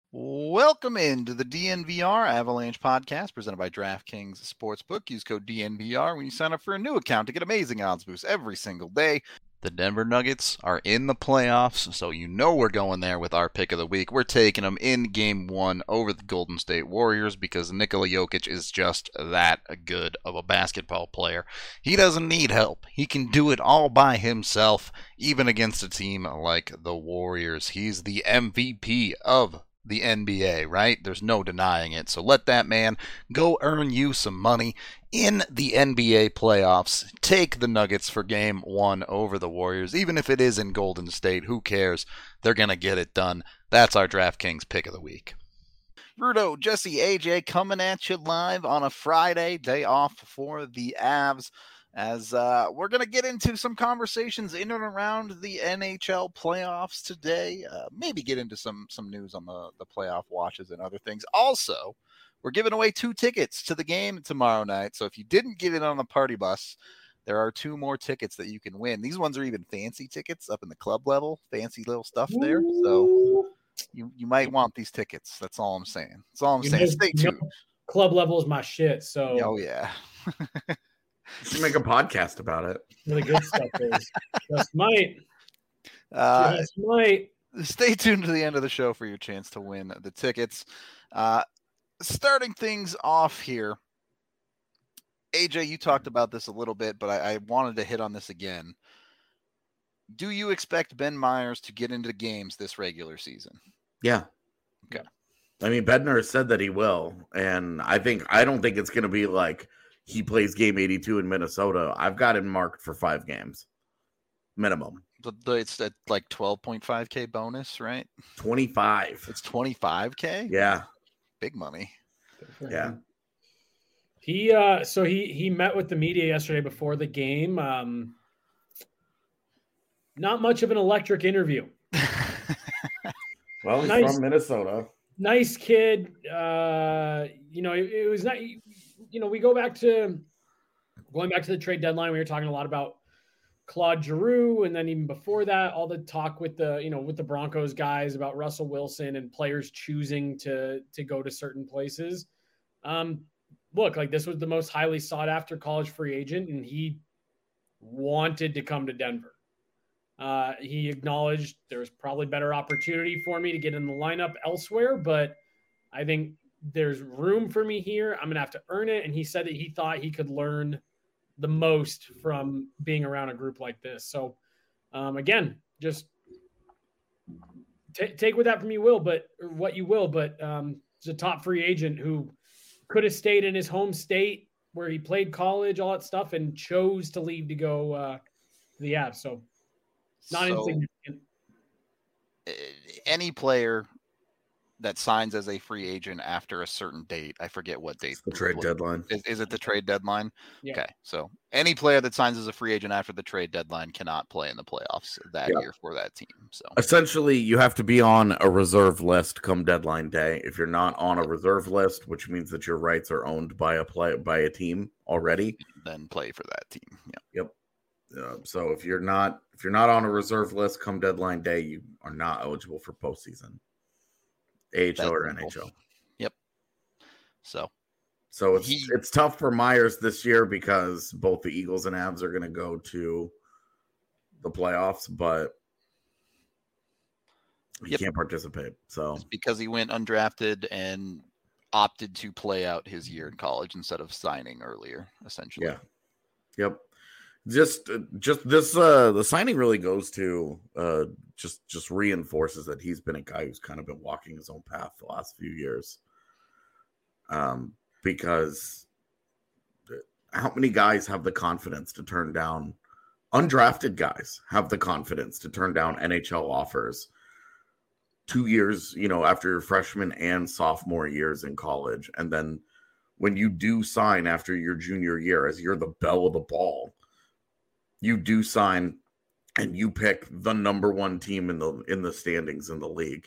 Welcome into the DNVR Avalanche podcast presented by DraftKings Sportsbook. Use code DNVR when you sign up for a new account to get amazing odds boosts every single day. The Denver Nuggets are in the playoffs, so you know we're going there with our pick of the week. We're taking them in Game 1 over the Golden State Warriors because Nikola Jokic is just that good of a basketball player. He doesn't need help. He can do it all by himself, even against a team like the Warriors. He's the MVP of the NBA, right? There's no denying it. So let that man go earn you some money in the NBA playoffs. Take the Nuggets for Game 1 over the Warriors. Even if it is in Golden State, who cares? They're going to get it done. That's our DraftKings pick of the week. Rudo, Jesse, AJ coming at you live on a Friday, day off for the Avs. As we're going to get into some conversations in and around the NHL playoffs today. Maybe get into some news on the playoff watches and other things. Also, we're giving away 2 tickets to the game tomorrow night. So if you didn't get in on the party bus, there are 2 more tickets that you can win. These ones are even fancy tickets up in the club level. Fancy little stuff there. So you might want these tickets. That's all I'm saying. That's all I'm saying. Stay tuned. Club level is my shit. So oh yeah. You should make a podcast about it. The good stuff is just might. Just might. Stay tuned to the end of the show for your chance to win the tickets. Starting things off here, AJ, you talked about this a little bit, but I wanted to hit on this again. Do you expect Ben Meyers to get into games this regular season? Yeah. Okay. I mean, Bednar said that he will, and I don't think it's going to be like he plays game 82 in Minnesota. I've got him marked for 5 games minimum. But it's at like 12.5K bonus, right? 25. It's 25K? Yeah. Big money. Yeah. He met with the media yesterday before the game. Not much of an electric interview. Well, he's from Minnesota. Nice kid. It was not. We going back to the trade deadline. We were talking a lot about Claude Giroux, and then even before that, all the talk with the Broncos guys about Russell Wilson and players choosing to go to certain places. Look, like this was the most highly sought after college free agent, and he wanted to come to Denver. He acknowledged there's probably better opportunity for me to get in the lineup elsewhere, but I think there's room for me here. I'm going to have to earn it. And he said that he thought he could learn the most from being around a group like this. So, again, just take what that from you will, but or what you will, but it's a top free agent who could have stayed in his home state where he played college, all that stuff, and chose to leave to go to the Avs. So not insignificant. Any player that signs as a free agent after a certain date. I forget what date. It's the trade deadline. Is it the trade deadline? Yeah. Okay. So any player that signs as a free agent after the trade deadline cannot play in the playoffs that year for that team. So essentially you have to be on a reserve list come deadline day. If you're not on a reserve list, which means that your rights are owned by a team already, then play for that team. Yeah. Yep. So if you're not on a reserve list come deadline day, you are not eligible for postseason. AHL or NHL. Yep. So it's tough for Myers this year because both the Eagles and Avs are going to go to the playoffs, but he can't participate. So it's because he went undrafted and opted to play out his year in college instead of signing earlier, essentially. Yeah. Yep. Just this the signing really goes to just reinforces that he's been a guy who's kind of been walking his own path the last few years. Because how many guys have the confidence to turn down undrafted guys have the confidence to turn down NHL offers 2 years, after your freshman and sophomore years in college, and then when you do sign after your junior year as you're the belle of the ball, you do sign and you pick the number 1 team in the standings in the league.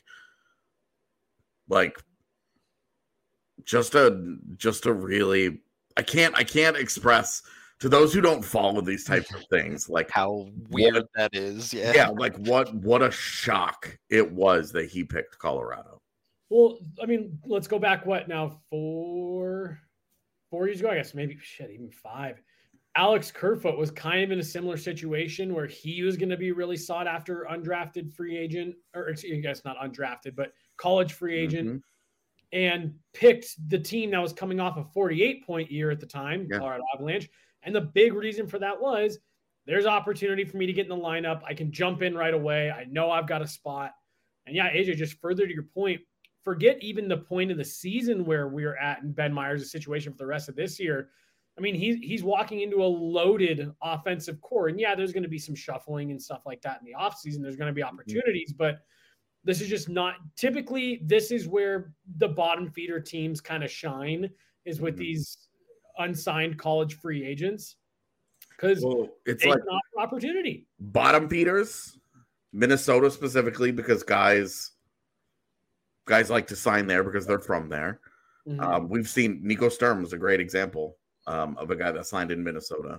Like just a really I can't express to those who don't follow these types of things like how weird that is. Yeah, like what a shock it was that he picked Colorado. Well, I mean, let's go back. What now? 4 years ago, I guess. Maybe even 5. Alex Kerfoot was kind of in a similar situation where he was going to be really sought after undrafted free agent, or excuse me, not undrafted, but college free agent, and picked the team that was coming off a 48-point year at the time, Colorado Avalanche. And the big reason for that was there's opportunity for me to get in the lineup. I can jump in right away. I know I've got a spot. And yeah, AJ, just further to your point, forget even the point of the season where we're at in Ben Meyers' situation for the rest of this year. I mean, he's walking into a loaded offensive core. And yeah, there's going to be some shuffling and stuff like that in the offseason. There's going to be opportunities, but this is just not typically, this is where the bottom feeder teams kind of shine, is with these unsigned college free agents. Because it's like not an opportunity. Bottom feeders, Minnesota specifically, because guys like to sign there because they're from there. We've seen Nico Sturm was a great example of a guy that signed in Minnesota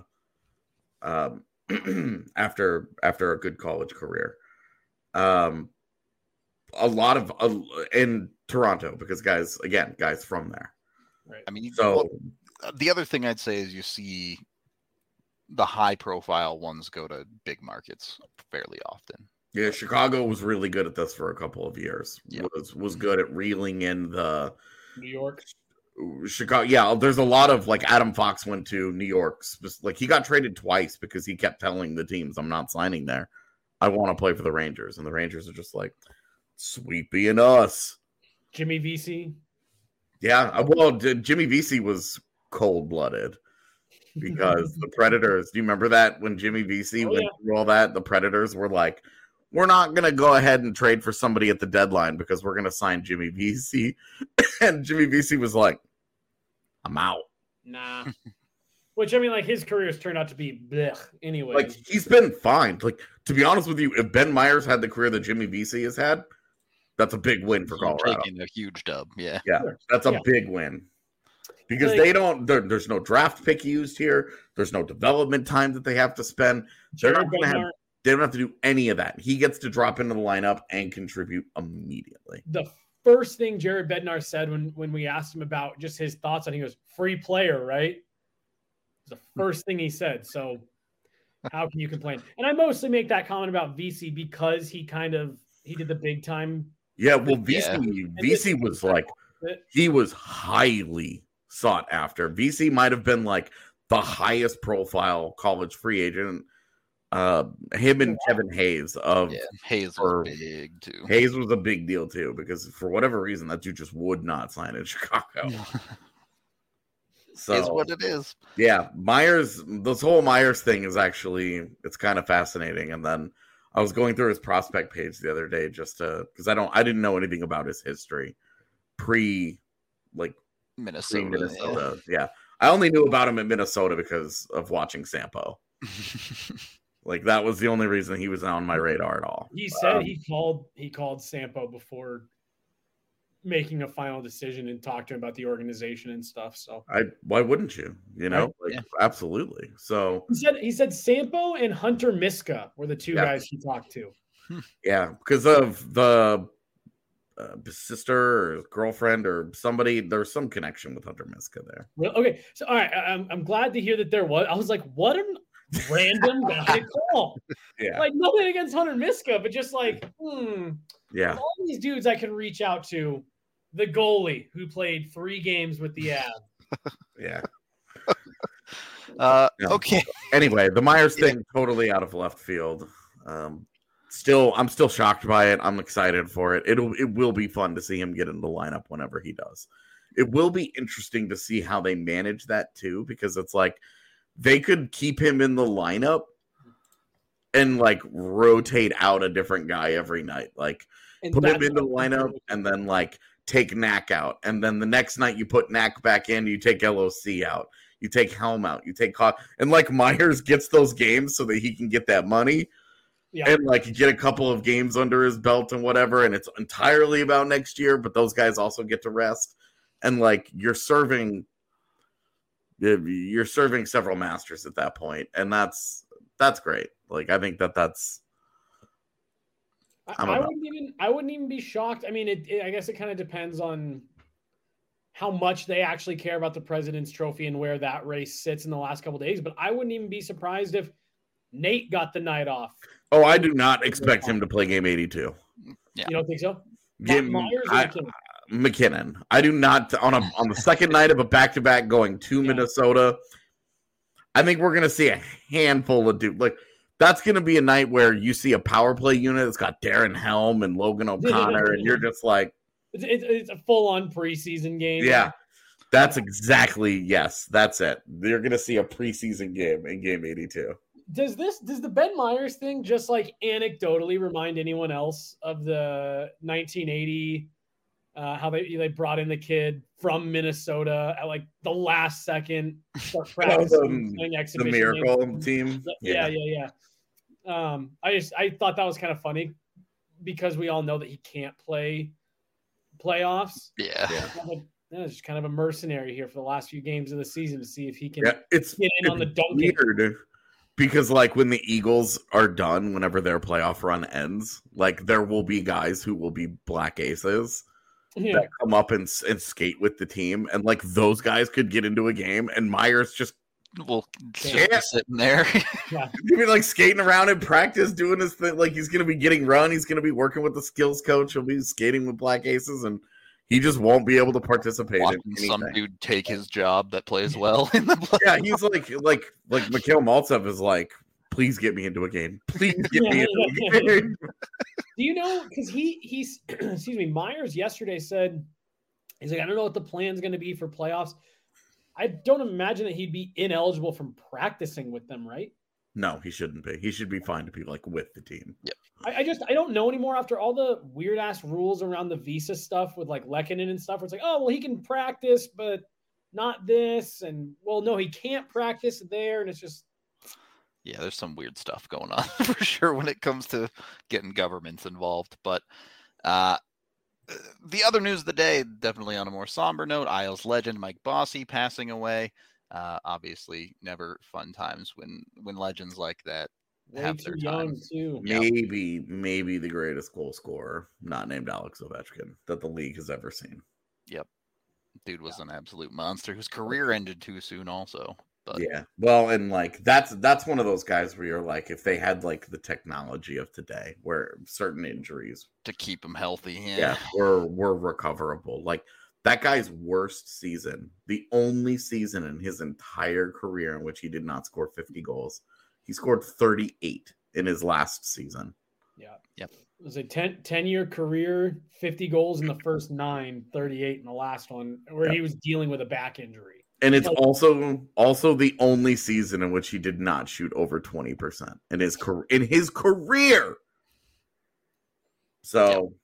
after a good college career. A lot of in Toronto, because guys from there. Right. I mean, so the other thing I'd say is you see the high profile ones go to big markets fairly often. Yeah, Chicago was really good at this for a couple of years. Yeah. Was good at reeling in the New York, Chicago. Yeah, there's a lot of, like, Adam Fox went to New York. Like, he got traded twice because he kept telling the teams, "I'm not signing there. I want to play for the Rangers," and the Rangers are just like, "Sweet being us." Jimmy Vesey. Yeah, well, Jimmy Vesey was cold-blooded. Because the Predators, do you remember that when Jimmy Vesey went through all that? The Predators were like, "We're not going to go ahead and trade for somebody at the deadline because we're going to sign Jimmy Vesey." And Jimmy Vesey was like, "I'm out." Nah. Which, I mean, like, his career has turned out to be blech anyway. Like, he's been fine. Like, to be honest with you, if Ben Meyers had the career that Jimmy Vesey has had, that's a big win for Colorado. Taking a huge dub, yeah. Yeah, sure. That's a big win. Because they don't, there's no draft pick used here. There's no development time that they have to spend. They don't have to do any of that. He gets to drop into the lineup and contribute immediately. The first thing Jared Bednar said when we asked him about just his thoughts on it, he goes, "Free player, right?" It's the first thing he said. So how can you complain? And I mostly make that comment about VC because he did the big time. Yeah, well, VC was like, he was highly sought after. VC might have been like the highest profile college free agent. Him and Kevin Hayes Hayes was big too. Hayes was a big deal too, because for whatever reason that dude just would not sign in Chicago. So is what it is. Yeah, this whole Myers thing is actually, it's kind of fascinating. And then I was going through his prospect page the other day just because I didn't know anything about his history Minnesota. Yeah. I only knew about him in Minnesota because of watching Sampo. Like, that was the only reason he was on my radar at all. He said he called Sampo before making a final decision and talked to him about the organization and stuff. So why wouldn't you? You know, absolutely. So he said Sampo and Hunter Miska were the two guys he talked to. Yeah, because of the sister or girlfriend or somebody, there's some connection with Hunter Miska there. Well, okay, so all right, I'm glad to hear that there was. I was like, what an random guy to call. Yeah, like, nothing against Hunter Miska, but just like, yeah, all these dudes I can reach out to. The goalie who played 3 games with the Avs. Yeah. Okay. Anyway, the Myers thing, totally out of left field. I'm still shocked by it. I'm excited for it. It will be fun to see him get in the lineup whenever he does. It will be interesting to see how they manage that too, because it's like they could keep him in the lineup and like rotate out a different guy every night. Like, put him in the lineup and then like take Knack out. And then the next night you put Knack back in, you take LOC out. You take Helm out. You take and like Myers gets those games so that he can get that money. Yeah. And like get a couple of games under his belt and whatever, and it's entirely about next year, but those guys also get to rest. And like you're serving several masters at that point, and that's great. Like, I think that's I wouldn't even be shocked. I mean, I guess it kind of depends on how much they actually care about the President's Trophy and where that race sits in the last couple of days. But I wouldn't even be surprised if Nate got the night off. Oh, I do not expect him to play game 82. Yeah. You don't think so? McKinnon. I do not on the second night of a back-to-back going to Minnesota. I think we're gonna see a handful of dudes. Like that's gonna be a night where you see a power play unit that's got Darren Helm and Logan O'Connor, and you're just like, it's a full-on preseason game. Yeah, that's exactly that's it. You're gonna see a preseason game in game 82. Does the Ben Myers thing just like anecdotally remind anyone else of the 1980? How they brought in the kid from Minnesota at like the last second start practicing the Miracle team. Yeah. I thought that was kind of funny because we all know that he can't play playoffs. Yeah. It's just kind of a mercenary here for the last few games of the season to see if he can get in on the dunk. Weird because like when the Eagles are done, whenever their playoff run ends, like there will be guys who will be black aces. That come up and skate with the team, and like those guys could get into a game, and Myers just sitting there. He'd be like skating around in practice, doing his thing. Like he's gonna be getting run. He's gonna be working with the skills coach. He'll be skating with black aces, and he just won't be able to participate. Watching in anything. Some dude take his job that plays well in the play. Yeah, he's like Mikhail Maltsev is like, please get me into a game. Please get me into a game. Do you know? Because he's excuse me. Myers yesterday said he's like, I don't know what the plan's going to be for playoffs. I don't imagine that he'd be ineligible from practicing with them, right? No, he shouldn't be. He should be fine to be like with the team. Yep. I don't know anymore after all the weird ass rules around the visa stuff with like Lehkonen and stuff. Where it's like, oh well, he can practice, but not this, and well, no, he can't practice there, and it's just. Yeah, there's some weird stuff going on for sure when it comes to getting governments involved. But the other news of the day, definitely on a more somber note, Isles legend Mike Bossy passing away. Obviously, never fun times when legends like that have their time. Too. Maybe the greatest goal scorer, not named Alex Ovechkin, that the league has ever seen. Yep. Dude was an absolute monster whose career ended too soon also. But. Yeah, well, and like that's one of those guys where you're like, if they had like the technology of today, where certain injuries to keep them healthy, were recoverable. Like that guy's worst season, the only season in his entire career in which he did not score 50 goals, he scored 38 in his last season. Yeah, yep. It was a 10-year career, 50 goals in the first 9, 38 in the last one, where he was dealing with a back injury. And it's also the only season in which he did not shoot over 20% in his career. So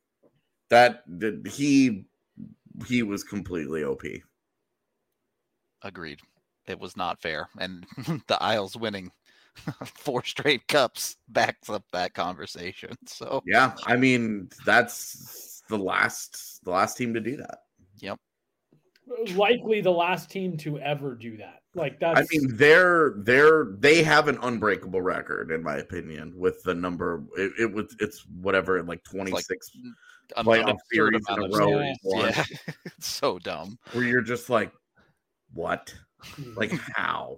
he was completely OP. Agreed. It was not fair, and the Isles winning 4 straight cups backs up that conversation. So yeah, I mean that's the last team to do that. Yep. Likely the last team to ever do that. Like that's. I mean, they have an unbreakable record, in my opinion, with the number. It's whatever, like 26 playoff series in a row. Yeah, it's so dumb. Where you're just like, what? Like how?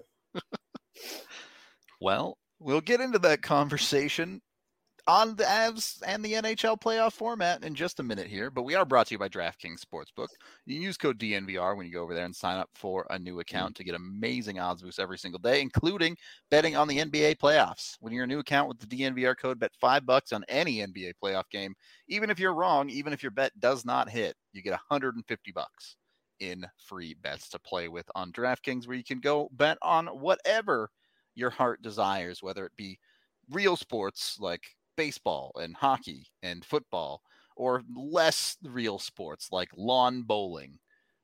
Well, we'll get into that conversation on the Avs and the NHL playoff format in just a minute here, but we are brought to you by DraftKings Sportsbook. You can use code DNVR when you go over there and sign up for a new account to get amazing odds boosts every single day, including betting on the NBA playoffs. When you're a new account with the DNVR code, bet $5 on any NBA playoff game. Even if you're wrong, even if your bet does not hit, you get $150 in free bets to play with on DraftKings, where you can go bet on whatever your heart desires, whether it be real sports like baseball and hockey and football, or less real sports like lawn bowling.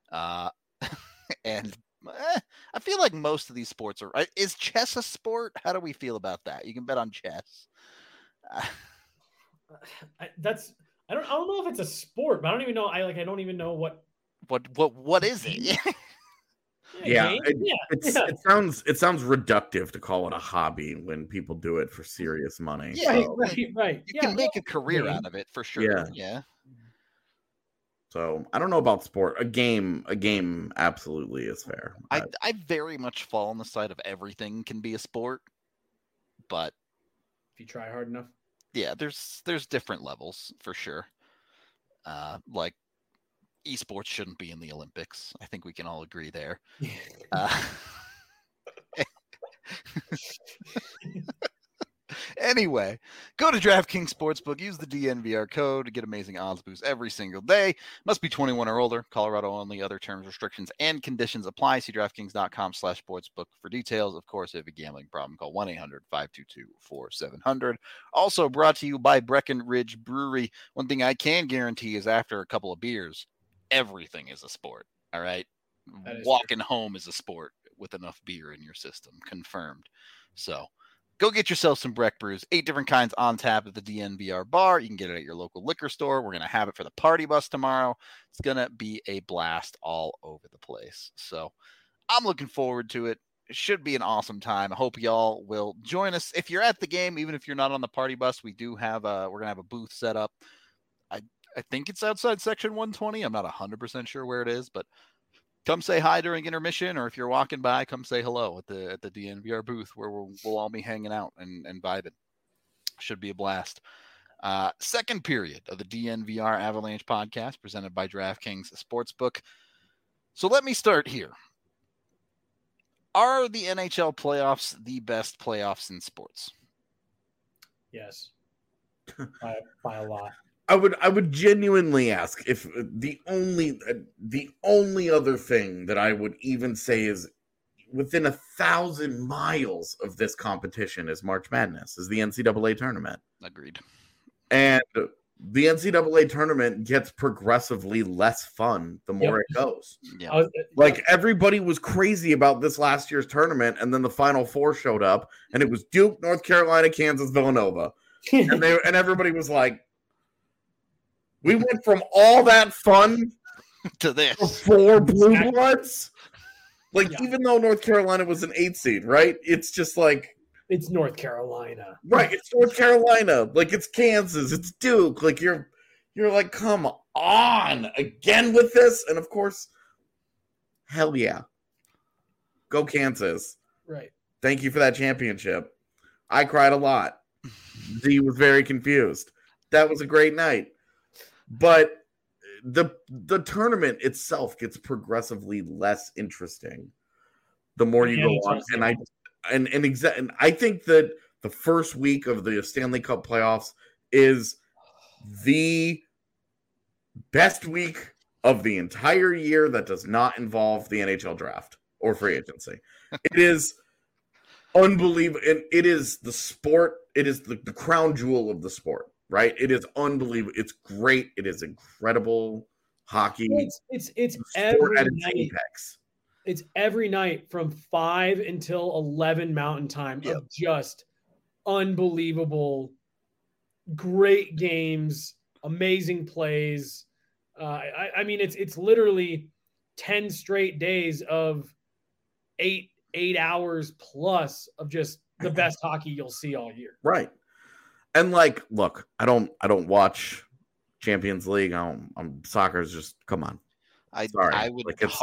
And I feel like most of these sports are. Is chess a sport? How do we feel about that? You can bet on chess. I don't know if it's a sport, but I don't even know. I don't even know what is it? Yeah, it sounds reductive to call it a hobby when people do it for serious money. Yeah, right. You can make a career out of it for sure. Yeah. So I don't know about sport. A game absolutely is fair. I very much fall on the side of everything can be a sport, but if you try hard enough. Yeah, there's different levels for sure. Like esports shouldn't be in the Olympics. I think we can all agree there. Anyway, go to DraftKings Sportsbook. Use the DNVR code to get amazing odds boosts every single day. Must be 21 or older. Colorado only. Other terms, restrictions, and conditions apply. See DraftKings.com/sportsbook for details. Of course, if you have a gambling problem, call 1-800-522-4700. Also brought to you by Breckenridge Brewery. One thing I can guarantee is after a couple of beers, everything is a sport. All right? Walking home is a sport with enough beer in your system. Confirmed. So go get yourself some Breck Brews. 8 different kinds on tap at the DNVR bar. You can get it at your local liquor store. We're going to have it for the party bus tomorrow. It's going to be a blast all over the place. So I'm looking forward to it. It should be an awesome time. I hope y'all will join us. If you're at the game, even if you're not on the party bus, we do have we're going to have a booth set up. I think it's outside section 120. I'm not 100% sure where it is, but come say hi during intermission, or if you're walking by, come say hello at the DNVR booth where we'll all be hanging out and vibing. Should be a blast. Second period of the DNVR Avalanche podcast presented by DraftKings Sportsbook. So let me start here. Are the NHL playoffs the best playoffs in sports? Yes. By a lot. I would genuinely ask if the only other thing that I would even say is within 1,000 miles of this competition is March Madness, is the NCAA tournament. Agreed. And the NCAA tournament gets progressively less fun the more it goes. Yeah. Like everybody was crazy about this last year's tournament, and then the Final Four showed up, and it was Duke, North Carolina, Kansas, Villanova, and everybody was like, we went from all that fun to this. 4 Blue Bloods. Even though North Carolina was an 8 seed, right? It's just like it's North Carolina. Right, it's North Carolina. Like it's Kansas, it's Duke. Like you're like, come on, again with this? And of course, hell yeah. Go Kansas. Right. Thank you for that championship. I cried a lot. Z was very confused. That was a great night. But the tournament itself gets progressively less interesting the more you go on. And I think that the first week of the Stanley Cup playoffs is the best week of the entire year that does not involve the NHL draft or free agency. It is unbelievable. And it is the sport. It is the crown jewel of the sport. Right, it is unbelievable. It's great. It is incredible hockey. It's every night. Apex. It's every night from 5 until 11 Mountain Time of just unbelievable, great games, amazing plays. I mean, it's literally 10 straight days of 8 hours plus of just the best hockey you'll see all year. Right. And like, look, I don't watch Champions League. Soccer's just, come on. I would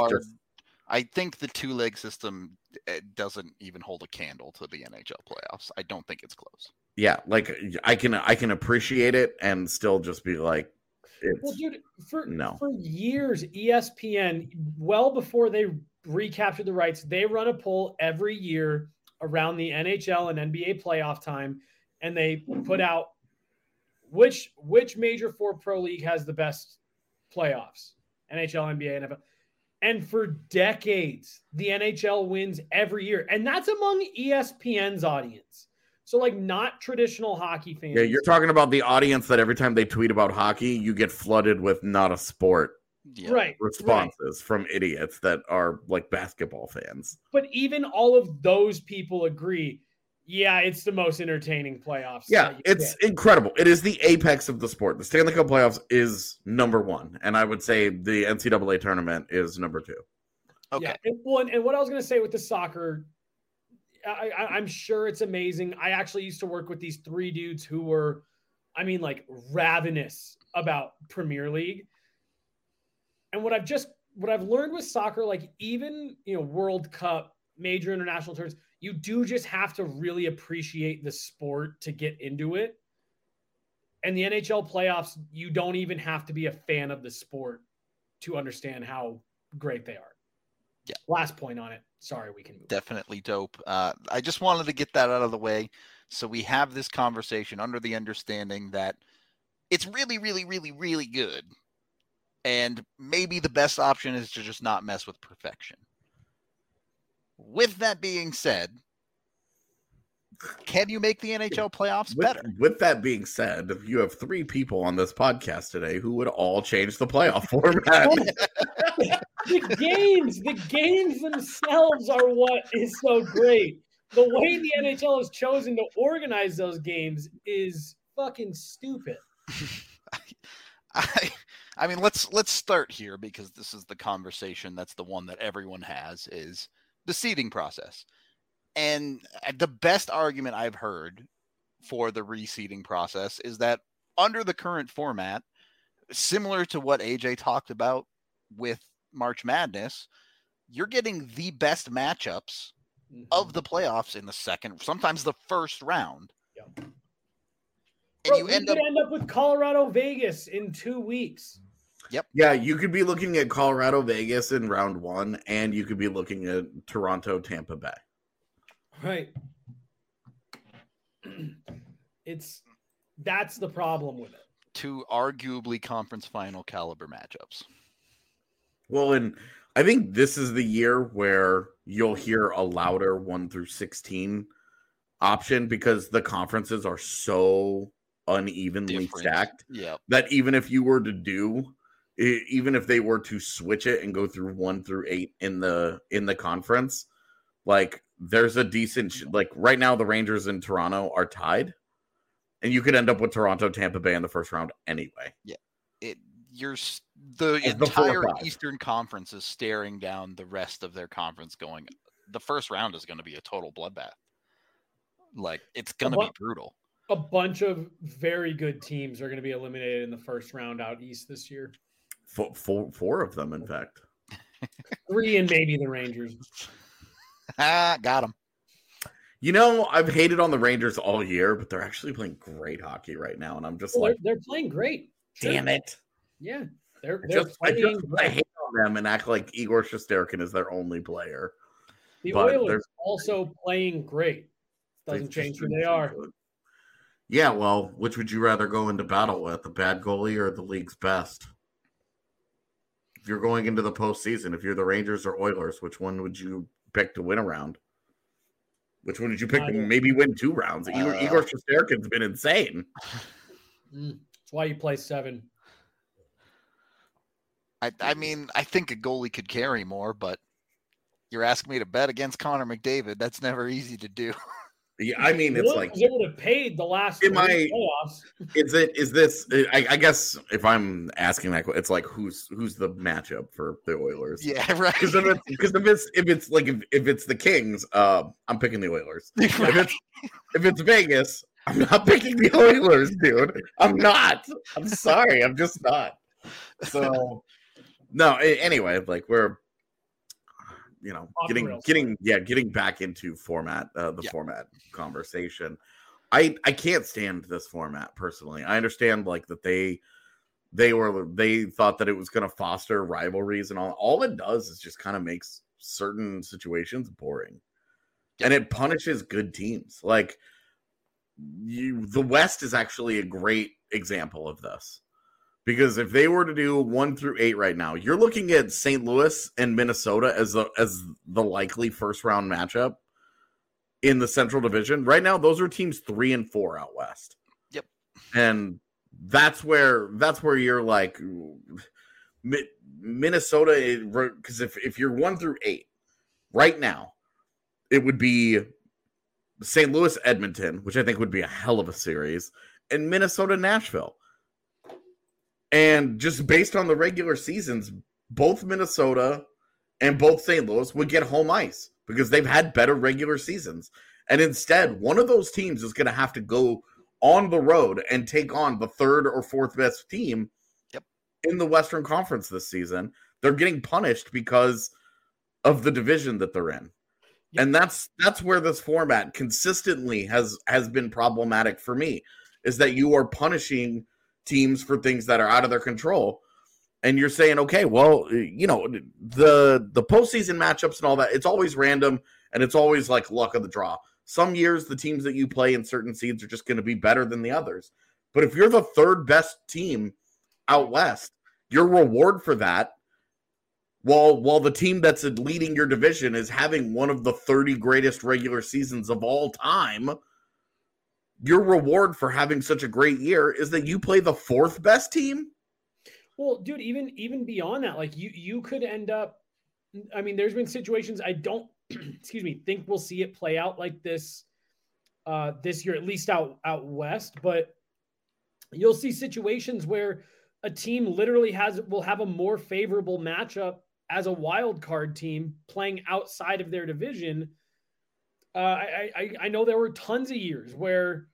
I think the 2-leg system doesn't even hold a candle to the NHL playoffs. I don't think it's close. Yeah, like I can appreciate it and still just be like, well, dude, for years, ESPN, well before they recaptured the rights, they run a poll every year around the NHL and NBA playoff time. And they put out which major 4 pro league has the best playoffs, NHL, NBA, NFL. And for decades, the NHL wins every year. And that's among ESPN's audience. So like not traditional hockey fans. Yeah, you're talking about the audience that every time they tweet about hockey, you get flooded with not a sport responses from idiots that are like basketball fans. But even all of those people agree, yeah, it's the most entertaining playoffs. Yeah, it's incredible. It is the apex of the sport. The Stanley Cup playoffs is number 1. And I would say the NCAA tournament is number 2. Okay. Yeah. And what I was going to say with the soccer, I'm sure it's amazing. I actually used to work with these 3 dudes who were, like ravenous about Premier League. And what I've learned with soccer, like even, World Cup, major international tournaments, you do just have to really appreciate the sport to get into it. And the NHL playoffs, you don't even have to be a fan of the sport to understand how great they are. Yeah. Last point on it. Sorry, we can move. Definitely dope. I just wanted to get that out of the way so we have this conversation under the understanding that it's really, really, really, really good. And maybe the best option is to just not mess with perfection. With that being said, can you make the NHL playoffs better? With that being said, you have 3 people on this podcast today who would all change the playoff format. The games themselves are what is so great. The way the NHL has chosen to organize those games is fucking stupid. I mean, let's start here because this is the conversation that's the one that everyone has, is the seeding process. And the best argument I've heard for the reseeding process is that under the current format, similar to what AJ talked about with March Madness, you're getting the best matchups of the playoffs in the second, sometimes the first round. Yep. And Bro, you end up with Colorado Vegas in 2 weeks. Yep. Yeah, you could be looking at Colorado Vegas in round 1, and you could be looking at Toronto Tampa Bay. Right. That's the problem with it. 2 arguably conference final caliber matchups. Well, and I think this is the year where you'll hear a louder 1 through 16 option because the conferences are so unevenly stacked that even if they were to switch it and go through 1 through 8 in the conference, like there's a decent, like right now the Rangers in Toronto are tied, and you could end up with Toronto, Tampa Bay in the first round anyway. Yeah, the entire Eastern Conference is staring down the rest of their conference going, the first round is going to be a total bloodbath. Like, it's going to be brutal. A bunch of very good teams are going to be eliminated in the first round out east this year. 4 of them, in fact. 3 and maybe the Rangers. Got them. You know, I've hated on the Rangers all year, but they're actually playing great hockey right now, and I'm just they're playing great. Damn it! Yeah, I hate on them and act like Igor Shesterkin is their only player. The Oilers also playing great. Doesn't change who they are. Good. Yeah, well, which would you rather go into battle with, the bad goalie or the league's best? If you're going into the postseason, if you're the Rangers or Oilers, which one would you pick to win a round? Which one did you pick to maybe win 2 rounds? Igor Shesterkin's been insane. That's why you play 7. I mean, I think a goalie could carry more, but you're asking me to bet against Connor McDavid. That's never easy to do. Yeah, I mean, it's like it would have paid the last playoffs. Is this? I guess if I'm asking that, it's like who's the matchup for the Oilers? Yeah, right. Because if it's the Kings, I'm picking the Oilers. Right. If it's Vegas, I'm not picking the Oilers, dude. I'm not. I'm sorry. I'm just not. So no. Anyway, like we're. Getting back into format, format conversation. I can't stand this format personally. I understand like that they thought that it was going to foster rivalries and all it does is just kind of makes certain situations boring. And it punishes good teams. Like the West is actually a great example of this. Because if they were to do 1 through 8 right now, you're looking at St. Louis and Minnesota as the likely first round matchup in the Central Division. Right now, those are teams 3 and 4 out west. Yep, and that's where you're like Minnesota. Because if you're 1 through 8 right now, it would be St. Louis Edmonton, which I think would be a hell of a series, and Minnesota Nashville. And just based on the regular seasons, both Minnesota and both St. Louis would get home ice because they've had better regular seasons. And instead, one of those teams is going to have to go on the road and take on the third or fourth best team in the Western Conference this season. They're getting punished because of the division that they're in. Yep. And that's where this format consistently has been problematic for me, is that you are punishing teams for things that are out of their control. And you're saying, okay, well, you know, the postseason matchups and all that, it's always random and it's always like luck of the draw. Some years, the teams that you play in certain seeds are just going to be better than the others. But if you're the third best team out west, your reward for that, while the team that's leading your division is having one of the 30 greatest regular seasons of all time, your reward for having such a great year is that you play the fourth best team. Well, dude, even beyond that, like you could end up, I mean, there's been situations I don't, excuse me, think we'll see it play out like this this year, at least out west, but you'll see situations where a team literally will have a more favorable matchup as a wild card team playing outside of their division. I know there were tons of years where,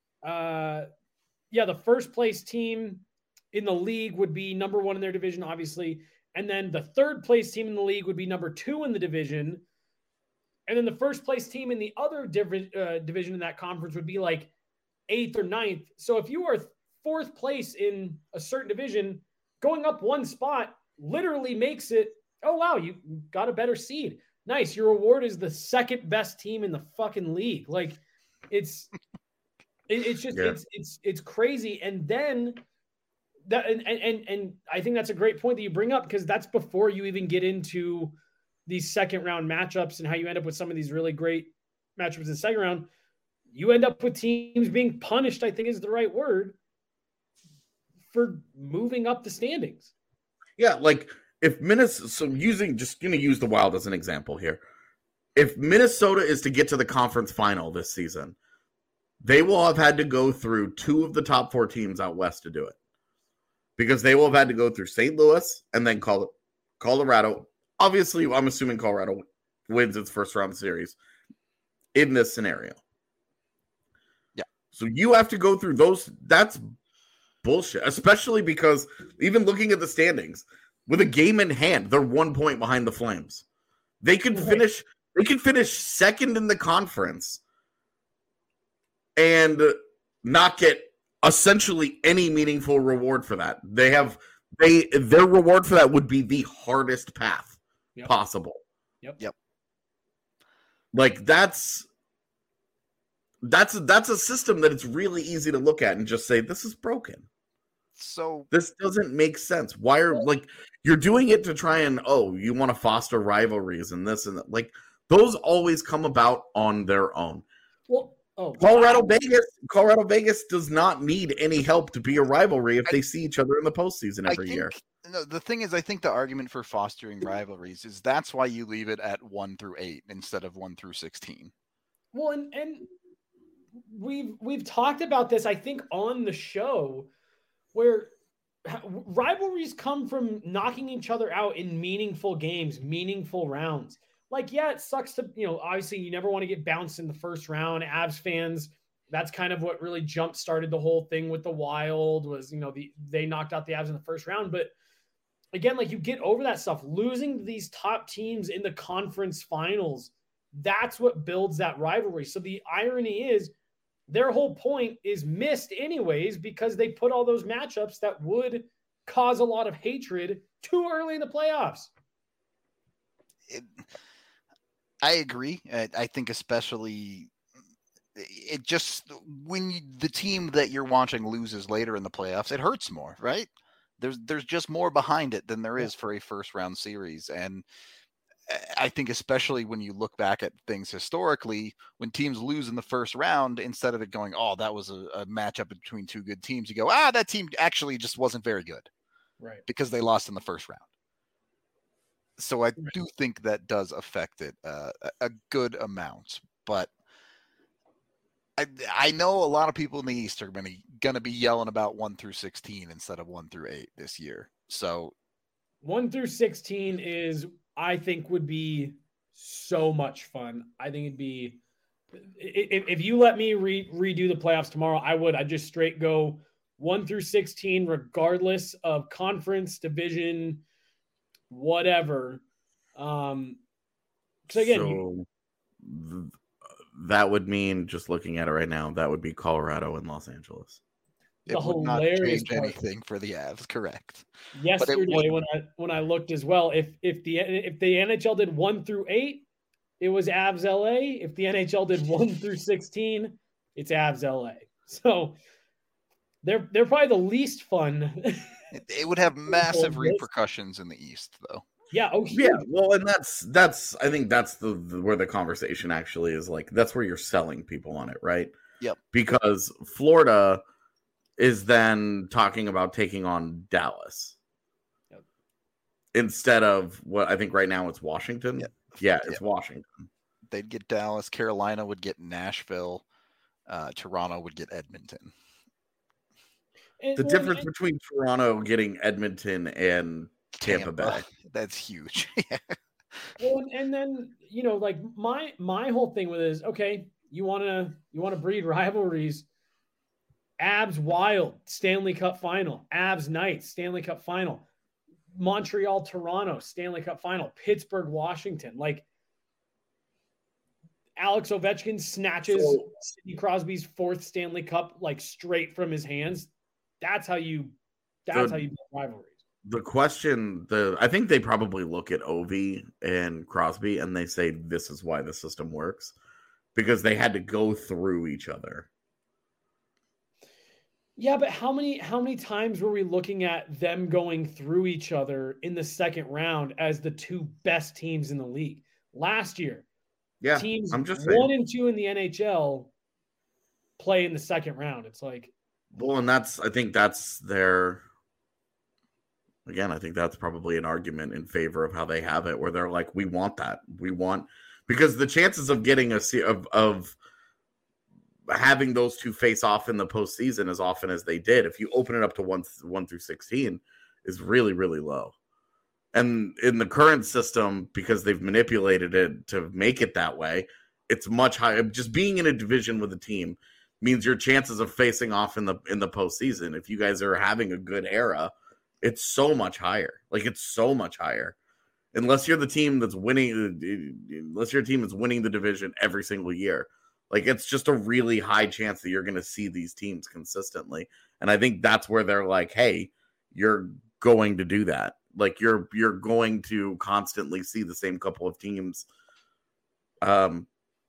the first place team in the league would be number one in their division, obviously. And then the third place team in the league would be number two in the division. And then the first place team in the other division in that conference would be like eighth or ninth. So if you are fourth place in a certain division, going up one spot literally makes it, oh, wow, you got a better seed. Nice. Your reward is the second best team in the fucking league. Like it's just, it's crazy. And then that, and I think that's a great point that you bring up, because that's before you even get into these second round matchups and how you end up with some of these really great matchups in the second round. You end up with teams being punished, I think is the right word, for moving up the standings. Yeah. Like if Minnesota, so just going to use the Wild as an example here. If Minnesota is to get to the conference final this season, they will have had to go through two of the top four teams out west to do it, because they will have had to go through St. Louis and then Colorado. Obviously, I'm assuming Colorado wins its first round series in this scenario. Yeah. So you have to go through those. That's bullshit, especially because even looking at the standings, with a game in hand, they're 1 point behind the Flames. They could finish. They could finish second in the conference and not get essentially any meaningful reward for that. Their reward for that would be the hardest path possible. Yep. Like that's a system that it's really easy to look at and just say, this is broken. So this doesn't make sense. Why are you're doing it to try and you want to foster rivalries and this and that. Like those always come about on their own. Well, Colorado Vegas does not need any help to be a rivalry if they see each other in the postseason every year. No, the thing is, I think the argument for fostering rivalries is that's why you leave it at 1 through 8 instead of 1 through 16. Well, and we've talked about this, I think, on the show, where rivalries come from knocking each other out in meaningful games, meaningful rounds. Like, yeah, it sucks to, obviously you never want to get bounced in the first round. Avs fans, that's kind of what really jump started the whole thing with the Wild was, they knocked out the Avs in the first round. But again, like you get over that stuff, losing to these top teams in the conference finals, that's what builds that rivalry. So the irony is their whole point is missed anyways, because they put all those matchups that would cause a lot of hatred too early in the playoffs. I agree. I think especially it just when the team that you're watching loses later in the playoffs, it hurts more, right? There's just more behind it than there is for a first round series. And I think especially when you look back at things historically, when teams lose in the first round, instead of it going, oh, that was a matchup between two good teams, you go, that team actually just wasn't very good. Right. Because they lost in the first round. So I do think that does affect it a good amount. But I know a lot of people in the East are going to be yelling about 1 through 16 instead of 1 through 8 this year. So 1 through 16 is I think would be so much fun. I think it'd be, if you let me redo the playoffs tomorrow, I'd just straight go 1 through 16, regardless of conference, division, whatever. So again, that would mean, just looking at it right now, that would be Colorado and Los Angeles. It would not change anything for the Avs, correct? Yesterday, when I looked as well, if the NHL did 1 through 8, it was Avs LA. If the NHL did 1 through 16, it's Avs LA. So they're probably the least fun. It would have massive repercussions in the East, though. Yeah. Oh, yeah. Well, and that's I think that's the where the conversation actually is. Like, that's where you're selling people on it, right? Yep. Because Florida is then talking about taking on Dallas instead of what I think right now it's Washington. Yep. Yeah, it's Washington. They'd get Dallas. Carolina would get Nashville. Toronto would get Edmonton. The difference between Toronto getting Edmonton and Tampa Bay. That's huge. Well, and then, like my whole thing with it is, okay, you want to breed rivalries. Avs Wild, Stanley Cup final. Avs Knights, Stanley Cup final. Montreal, Toronto, Stanley Cup final. Pittsburgh, Washington. Like, Alex Ovechkin snatches Sidney Crosby's 4th Stanley Cup, like, straight from his hands. That's how you build rivalries. The question, I think they probably look at Ovi and Crosby and they say, this is why the system works, because they had to go through each other. Yeah, but how many times were we looking at them going through each other in the second round as the 2 best teams in the league? Last year, teams I'm just 1 and 2 in the NHL play in the second round. It's like, well, and I think that's probably an argument in favor of how they have it, where they're like, we want that. Because the chances of getting of having those 2 face off in the postseason as often as they did, if you open it up to 1 through 16, is really, really low. And in the current system, because they've manipulated it to make it that way, it's much higher. Just being in a division with a team means your chances of facing off in the postseason, if you guys are having a good era, it's so much higher. Like, it's so much higher. Unless you're the team that's winning, unless your team is winning the division every single year. Like, it's just a really high chance that you're going to see these teams consistently. And I think that's where they're like, hey, you're going to do that. Like, you're going to constantly see the same couple of teams when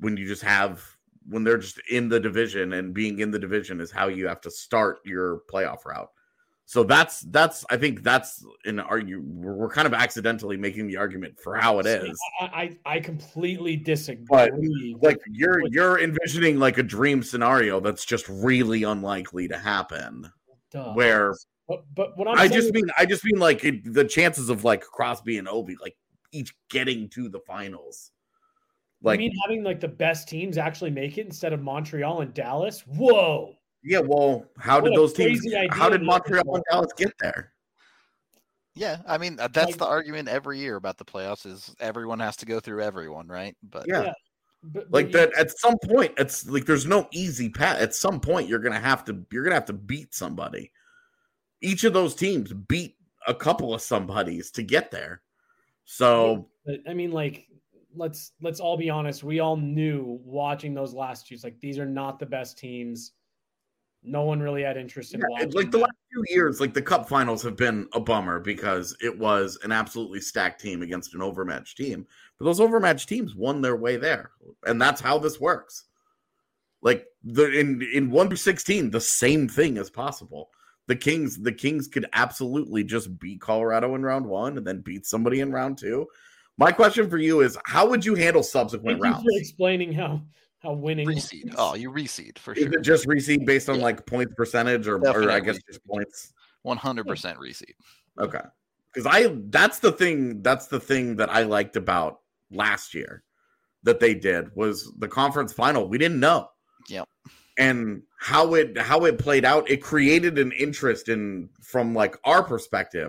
they're just in the division, and being in the division is how you have to start your playoff route. So that's I think that's an argument. We're kind of accidentally making the argument for how it is. I completely disagree. But like, you're envisioning like a dream scenario that's just really unlikely to happen. Where, but what I just mean like the chances of like Crosby and Ovi like each getting to the finals. Like, you mean having like the best teams actually make it instead of Montreal and Dallas? Whoa. Yeah, well, how did Montreal and Dallas get there? Yeah, I mean, that's the argument every year about the playoffs, is everyone has to go through everyone, right? But yeah. But that at some point, it's like there's no easy path. At some point, you're gonna have to beat somebody. Each of those teams beat a couple of somebodies to get there. So I mean, like, let's all be honest. We all knew watching those last 2, like, these are not the best teams. No one really had interest in watching. Like, the last 2 years, like, the Cup finals have been a bummer because it was an absolutely stacked team against an overmatched team. But those overmatched teams won their way there. And that's how this works. Like, in 1 through 16, the same thing is possible. The Kings could absolutely just beat Colorado in round 1 and then beat somebody in round 2. My question for you is, how would you handle subsequent rounds? Thank you for explaining how winning reseed. Oh, you reseed for sure. Is it just reseed based on like points percentage, or I guess just points? 100% reseed. Okay, because that's the thing that I liked about last year that they did was the conference final. We didn't know. Yep. And how it played out, it created an interest from like our perspective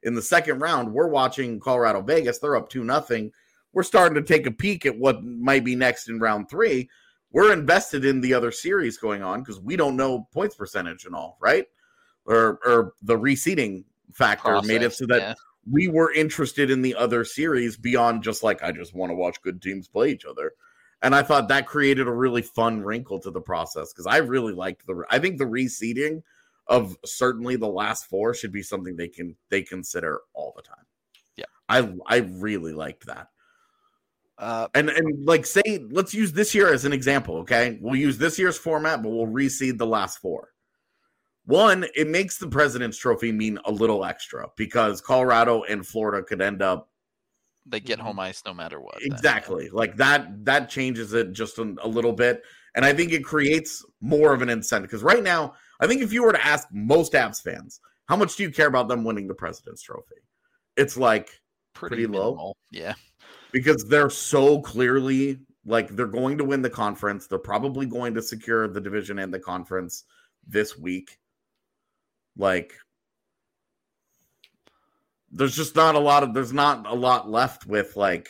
in the second round, we're watching Colorado Vegas. They're up 2-0. We're starting to take a peek at what might be next in round 3. We're invested in the other series going on because we don't know points percentage and all, right? Or the reseeding factor made it so that we were interested in the other series beyond just like, I just want to watch good teams play each other. And I thought that created a really fun wrinkle to the process because I really liked I think the reseeding of certainly the last 4 should be something they consider all the time. Yeah. I really liked that. And like, say, let's use this year as an example, okay? We'll use this year's format, but we'll reseed the last 4. One, it makes the President's Trophy mean a little extra because Colorado and Florida could end up. They get home ice no matter what. Exactly. Like that changes it just a little bit. And I think it creates more of an incentive because right now, I think if you were to ask most Avs fans, how much do you care about them winning the President's Trophy? It's like pretty low. Yeah. Because they're so clearly like they're going to win the conference. They're probably going to secure the division and the conference this week. Like there's not a lot left with like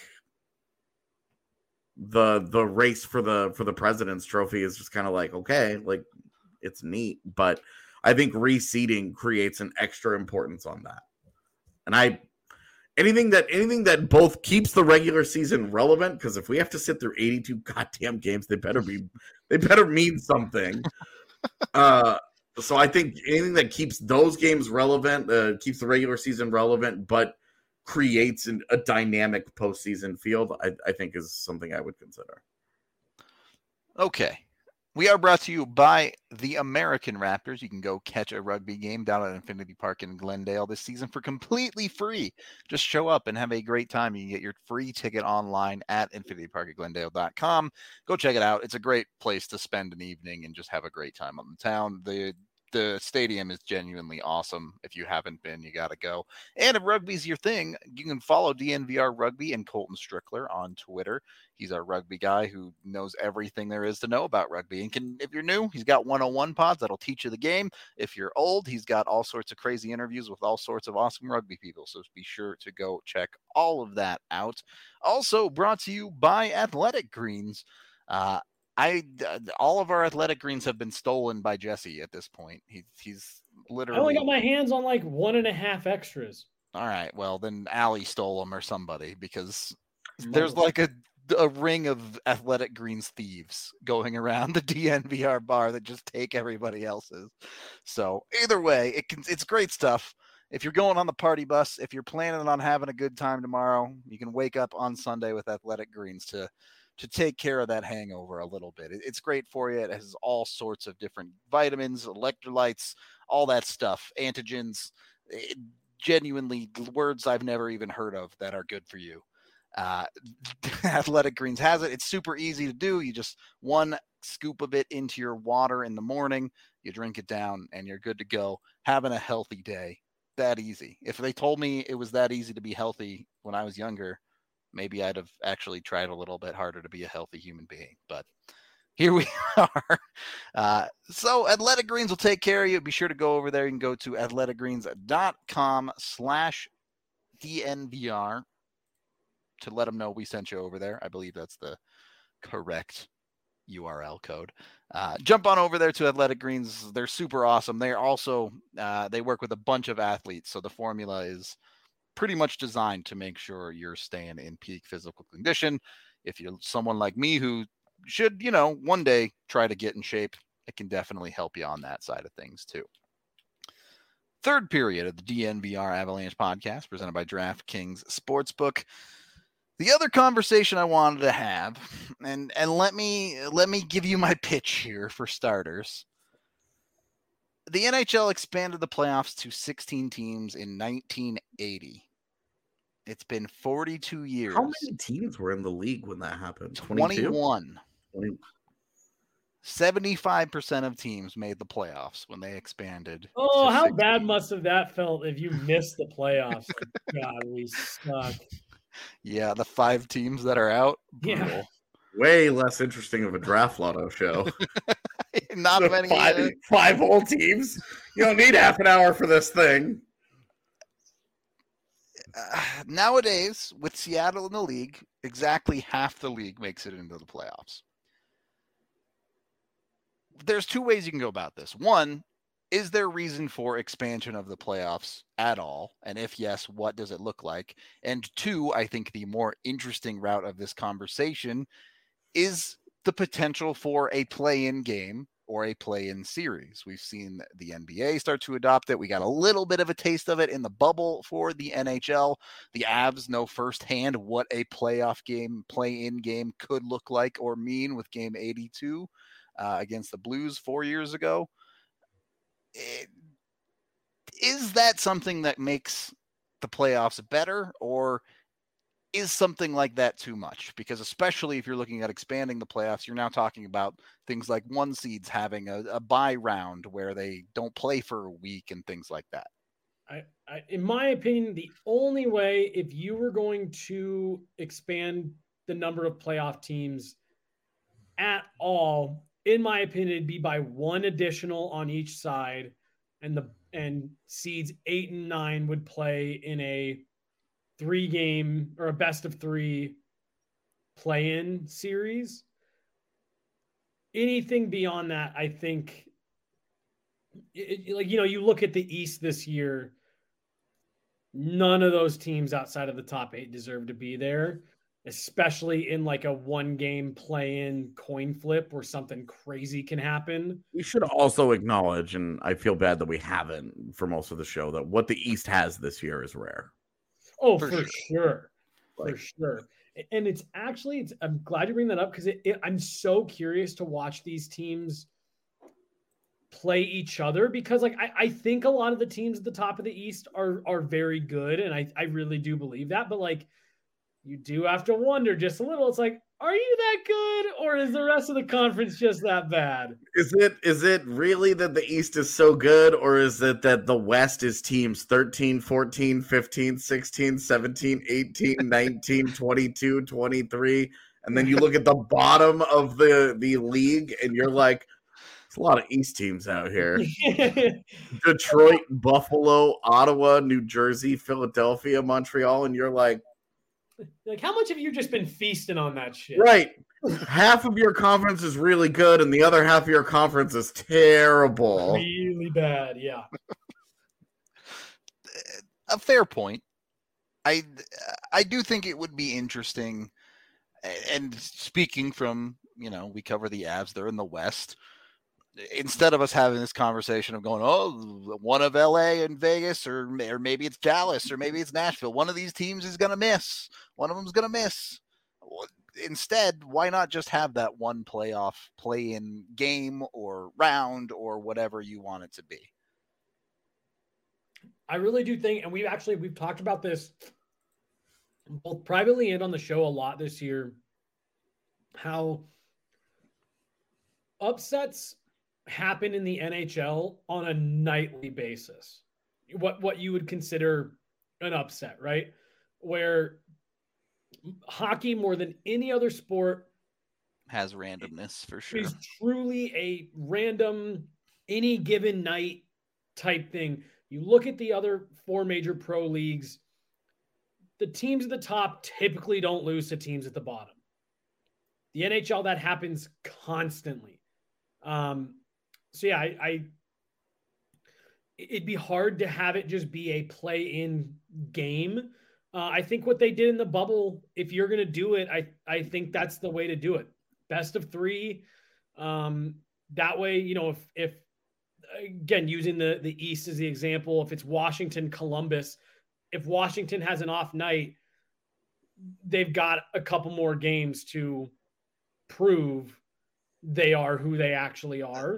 the race for the President's Trophy is just kind of like, okay, like it's neat, but I think reseeding creates an extra importance on that. And anything that both keeps the regular season relevant, because if we have to sit through 82 goddamn games, they better mean something. So I think anything that keeps those games relevant, keeps the regular season relevant, but creates a dynamic postseason field, I think is something I would consider. Okay. We are brought to you by the American Raptors. You can go catch a rugby game down at Infinity Park in Glendale this season for completely free. Just show up and have a great time. You can get your free ticket online at infinityparkatglendale.com. Go check it out. It's a great place to spend an evening and just have a great time on the town. The stadium is genuinely awesome. If you haven't been, you got to go. And if rugby's your thing, you can follow DNVR Rugby and Colton Strickler on Twitter. He's our rugby guy who knows everything there is to know about rugby. And if you're new, he's got 101 pods that'll teach you the game. If you're old, he's got all sorts of crazy interviews with all sorts of awesome rugby people. So be sure to go check all of that out. Also brought to you by Athletic Greens. All of our Athletic Greens have been stolen by Jesse at this point. He's literally. I only got my hands on like 1.5 extras. All right, well then Allie stole them or somebody because there's like a ring of Athletic Greens thieves going around the DNVR bar that just take everybody else's. So either way, it's great stuff. If you're going on the party bus, if you're planning on having a good time tomorrow, you can wake up on Sunday with Athletic Greens to take care of that hangover a little bit. It's great for you. It has all sorts of different vitamins, electrolytes, all that stuff, antigens, genuinely words I've never even heard of that are good for you. Athletic Greens has it. It's super easy to do. You just 1 scoop of it into your water in the morning, you drink it down, and you're good to go. Having a healthy day. That easy. If they told me it was that easy to be healthy when I was younger, maybe I'd have actually tried a little bit harder to be a healthy human being, but here we are. So Athletic Greens will take care of you. Be sure to go over there. You can go to athleticgreens.com/DNVR to let them know we sent you over there. I believe that's the correct URL code. Jump on over there to Athletic Greens. They're super awesome. They're also, they work with a bunch of athletes. So the formula is pretty much designed to make sure you're staying in peak physical condition. If you're someone like me who should, one day try to get in shape, it can definitely help you on that side of things too. Third period of the DNVR Avalanche podcast presented by DraftKings Sportsbook. The other conversation I wanted to have, and let me give you my pitch here for starters. The NHL expanded the playoffs to 16 teams in 1980. It's been 42 years. How many teams were in the league when that happened? 21. 75% of teams made the playoffs when they expanded. Oh, how bad must have that felt if you missed the playoffs? God, we suck. Yeah, the 5 teams that are out. Brutal. Yeah. Way less interesting of a draft lotto show. Not So many. 5 whole teams. You don't need half an hour for this thing. nowadays, with Seattle in the league, exactly half the league makes it into the playoffs. There's two ways you can go about this. One, is there reason for expansion of the playoffs at all? And if yes, what does it look like? And two, I think the more interesting route of this conversation is the potential for a play-in game or a play-in series. We've seen the NBA start to adopt it. We got a little bit of a taste of it in the bubble for the NHL. The Avs know firsthand what a playoff game, play-in game could look like or mean with game 82 against the Blues 4 years ago. Is that something that makes the playoffs better, or is something like that too much? Because especially if you're looking at expanding the playoffs, you're now talking about things like one seeds having a bye round where they don't play for a week and things like that. In my opinion, the only way, if you were going to expand the number of playoff teams at all, in my opinion, it'd be by one additional on each side, and seeds 8 and 9 would play in a 3-game or a best of 3 play-in series. Anything beyond that, I think, you look at the East this year, none of those teams outside of the top 8 deserve to be there, especially in like a 1-game play-in coin flip where something crazy can happen. We should also acknowledge, and I feel bad that we haven't for most of the show, that what the East has this year is rare. Oh, for sure. For sure. And it's actually, I'm glad you bring that up, because I'm so curious to watch these teams play each other, because like I think a lot of the teams at the top of the East are very good, and I really do believe that, but like you do have to wonder just a little. It's like, are you that good, or is the rest of the conference just that bad? Is it really that the East is so good, or is it that the West is teams 13, 14, 15, 16, 17, 18, 19, 22, 23, and then you look at the bottom of the league and you're like, there's a lot of East teams out here. Detroit, Buffalo, Ottawa, New Jersey, Philadelphia, Montreal, and you're like, how much have you just been feasting on that shit? Right. Half of your conference is really good, and the other half of your conference is terrible. Really bad, yeah. A fair point. I do think it would be interesting, and speaking from, we cover the Avs, they're in the West. Instead of us having this conversation of going, oh, one of LA and Vegas, or maybe it's Dallas, or maybe it's Nashville, one of these teams is going to miss. One of them's going to miss. Instead, why not just have that one playoff play-in game or round or whatever you want it to be? I really do think, and we've talked about this both privately and on the show a lot this year, how upsets happen in the NHL on a nightly basis. What you would consider an upset, right? Where hockey, more than any other sport, has randomness for sure. Is truly a random, any given night type thing. You look at the other 4 major pro leagues, the teams at the top typically don't lose to teams at the bottom. The NHL, that happens constantly. So yeah, it'd be hard to have it just be a play-in game. I think what they did in the bubble, if you're going to do it, I think that's the way to do it. Best of 3. That way, if again, using the East as the example, if it's Washington, Columbus, if Washington has an off night, they've got a couple more games to prove they are who they actually are.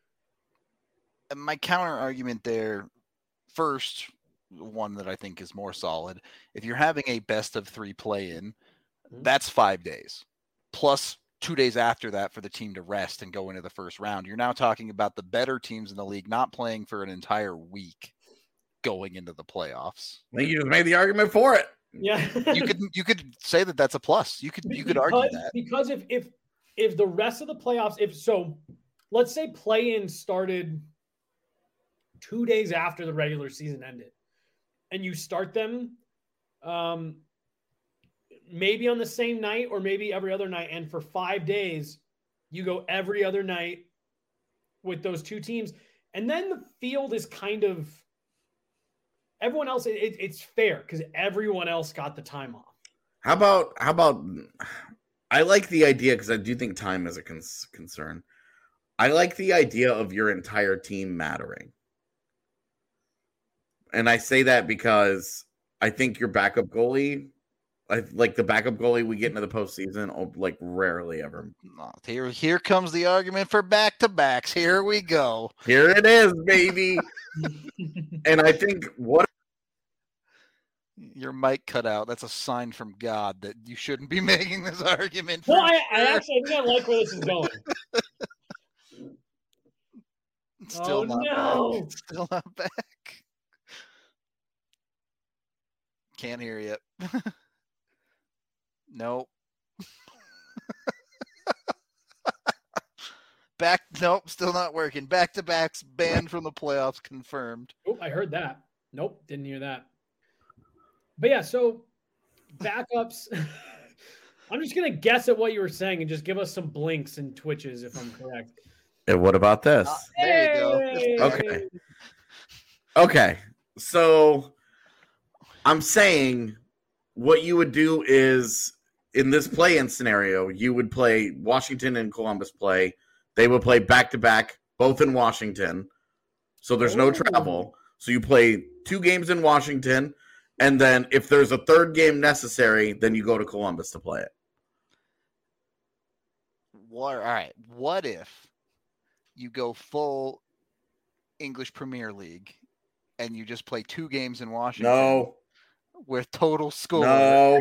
My counter argument there, first, one that I think is more solid. If you're having a best of 3 play-in, that's 5 days. Plus 2 days after that for the team to rest and go into the first round. You're now talking about the better teams in the league not playing for an entire week going into the playoffs. I think you just made the argument for it. Yeah. you could say that that's a plus. You could argue that. Because if the rest of the playoffs, let's say play-in started 2 days after the regular season ended, and you start them maybe on the same night or maybe every other night. And for 5 days, you go every other night with those two teams. And then the field is kind of everyone else. It's fair because everyone else got the time off. How about I like the idea because I do think time is a concern. I like the idea of your entire team mattering. And I say that because I think your backup goalie, like the backup goalie we get into the postseason, like rarely ever. Here comes the argument for back-to-backs. Here we go. Here it is, baby. And I think what your mic cut out. That's a sign from God that you shouldn't be making this argument. Well, I actually think I like where this is going. Still not back. Still not back. Can't hear you. Nope. Nope, still not working. Back-to-backs banned from the playoffs confirmed. Oh, I heard that. Nope, didn't hear that. But yeah, so backups. I'm just going to guess at what you were saying and just give us some blinks and twitches if I'm correct. And what about this? There you go. Okay. So I'm saying what you would do is in this play-in scenario, you would play Washington and Columbus play. They would play back-to-back, both in Washington. So there's no travel. So you play 2 games in Washington. And then if there's a third game necessary, then you go to Columbus to play it. All right. What if you go full English Premier League and you just play 2 games in Washington? No. With total score? No.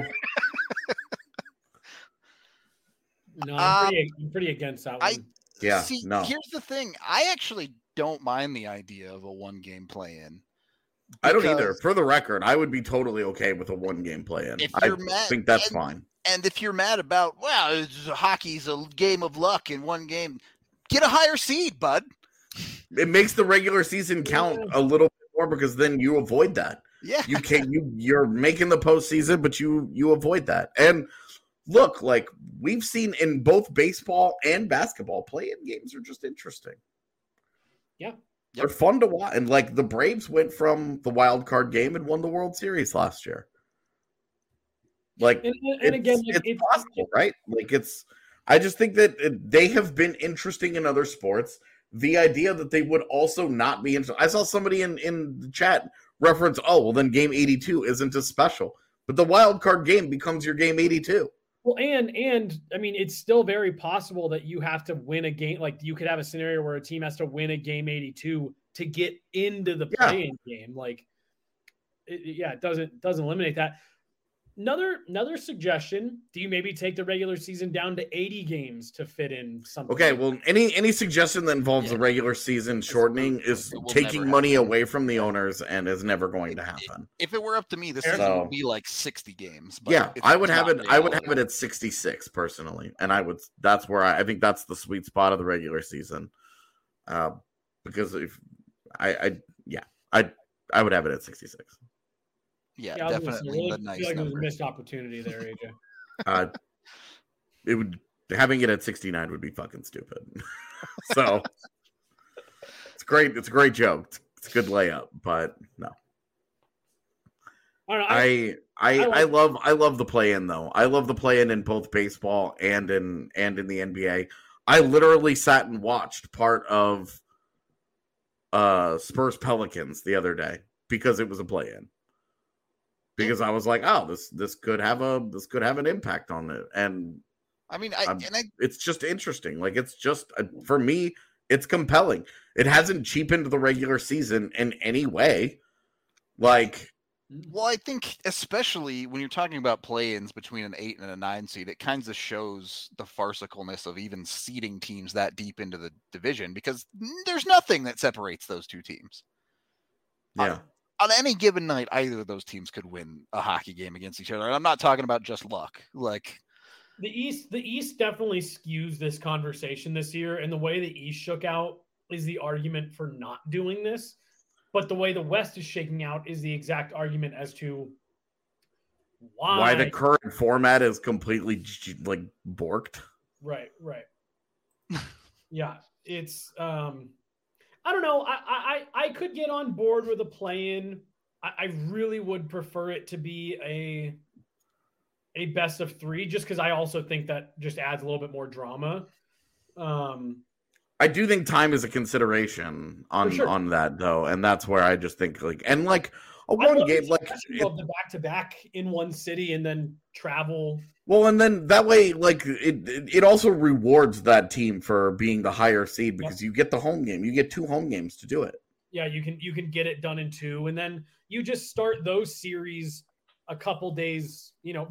No, I'm pretty against that one. No. Here's the thing. I actually don't mind the idea of a 1-game play-in. I don't either. For the record, I would be totally okay with a 1-game play-in. I think that's fine. And if you're mad about, hockey's a game of luck in 1 game, get a higher seed, bud. It makes the regular season count a little bit more because then you avoid that. Yeah. You're making the postseason, but you avoid that. And look, like we've seen in both baseball and basketball, play-in games are just interesting. Yeah. They're fun to watch. And like the Braves went from the wild card game and won the World Series last year. Like, it's possible, right? Like I just think that they have been interesting in other sports. The idea that they would also not be interesting. I saw somebody in the chat reference, then game 82 isn't as special. But the wild card game becomes your game 82. Well, and I mean, it's still very possible that you have to win a game. Like you could have a scenario where a team has to win a game 82 to get into the play-in game. Like, it doesn't eliminate that. Another suggestion: do you maybe take the regular season down to 80 games to fit in something? Okay, well, any suggestion that involves the regular season shortening is taking money away from the owners and is never going to happen. If it were up to me, this season would be like 60 games. But I would have it. I would have it at 66 personally, and that's where I think that's the sweet spot of the regular season. Because if I would have it at 66. Yeah, definitely the nice feel like number. It was a missed opportunity there, AJ. It would having it at 69 would be fucking stupid. So it's great. It's a great joke. It's a good layup, but no. I love the play-in though. I love the play-in in both baseball and in the NBA. I literally sat and watched part of Spurs Pelicans the other day because it was a play-in. Because I was like, this could have an impact on it, and I mean, it's just interesting. Like it's just for me, it's compelling. It hasn't cheapened the regular season in any way. Like, well, I think especially when you're talking about play-ins between an 8 and a 9 seed, it kind of shows the farcicalness of even seeding teams that deep into the division because there's nothing that separates those two teams. Yeah. On any given night, either of those teams could win a hockey game against each other. And I'm not talking about just luck. Like the East definitely skews this conversation this year. And the way the East shook out is the argument for not doing this. But the way the West is shaking out is the exact argument as to why the current format is completely like borked. Right. Yeah, it's I don't know. I could get on board with a play-in. I really would prefer it to be a best of 3, just because I also think that just adds a little bit more drama. I do think time is a consideration on that though, and that's where I just think like a one game like the back-to-back in one city and then travel. Well, and then that way, like it also rewards that team for being the higher seed because you get the home game. You get 2 home games to do it. Yeah, you can get it done in 2, and then you just start those series a couple days.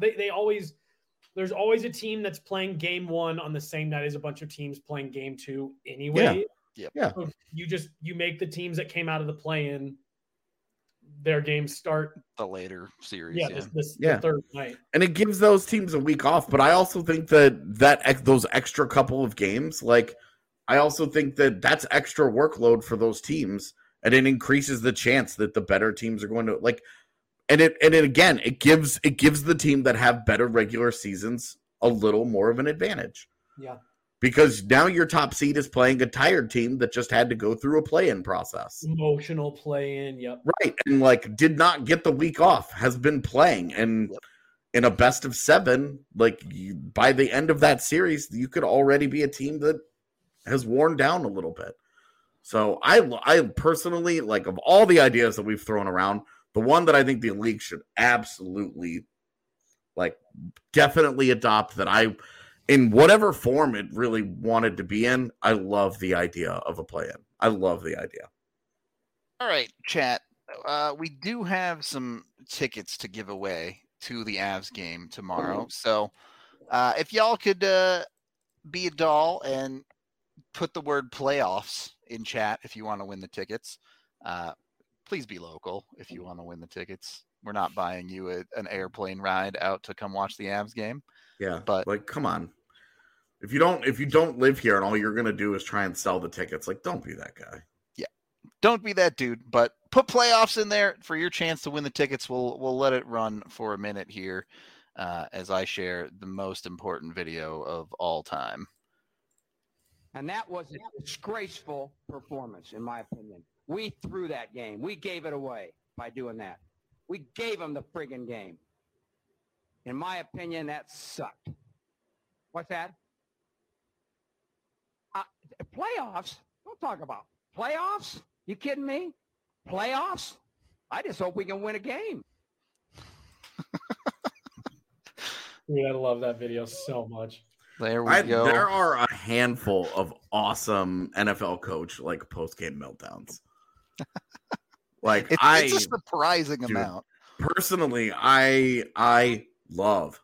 There's always a team that's playing game 1 on the same night as a bunch of teams playing game 2 anyway. Yeah. So you make the teams that came out of the play-in, their games start the later series. The third night, and it gives those teams a week off. But I also think that those extra couple of games, like I also think that that's extra workload for those teams, and it increases the chance that the better teams are going to like. And it gives the team that have better regular seasons a little more of an advantage. Yeah. Because now your top seed is playing a tired team that just had to go through a play-in process. Emotional play-in, yep. Right. And like did not get the week off, has been playing. And in a best of 7, like by the end of that series, you could already be a team that has worn down a little bit. So I personally, like of all the ideas that we've thrown around, the one that I think the league should absolutely, like, definitely adopt that in whatever form it really wanted to be in, I love the idea of a play-in. I love the idea. All right, chat. We do have some tickets to give away to the Avs game tomorrow. So if y'all could be a doll and put the word playoffs in chat if you want to win the tickets. Please be local if you want to win the tickets. We're not buying you an airplane ride out to come watch the Avs game. Yeah, but like, come on. If you don't live here and all you're gonna do is try and sell the tickets, like, don't be that guy. Yeah, don't be that dude. But put playoffs in there for your chance to win the tickets. We'll let it run for a minute here as I share the most important video of all time. And that was a disgraceful performance, in my opinion. We threw that game. We gave it away by doing that. We gave them the friggin' game. In my opinion, that sucked. What's that? Playoffs? Don't talk about playoffs. You kidding me? Playoffs? I just hope we can win a game. Dude, I love that video so much. There we go. There are a handful of awesome NFL coach like post-game meltdowns. Like it's a surprising amount. Personally, I love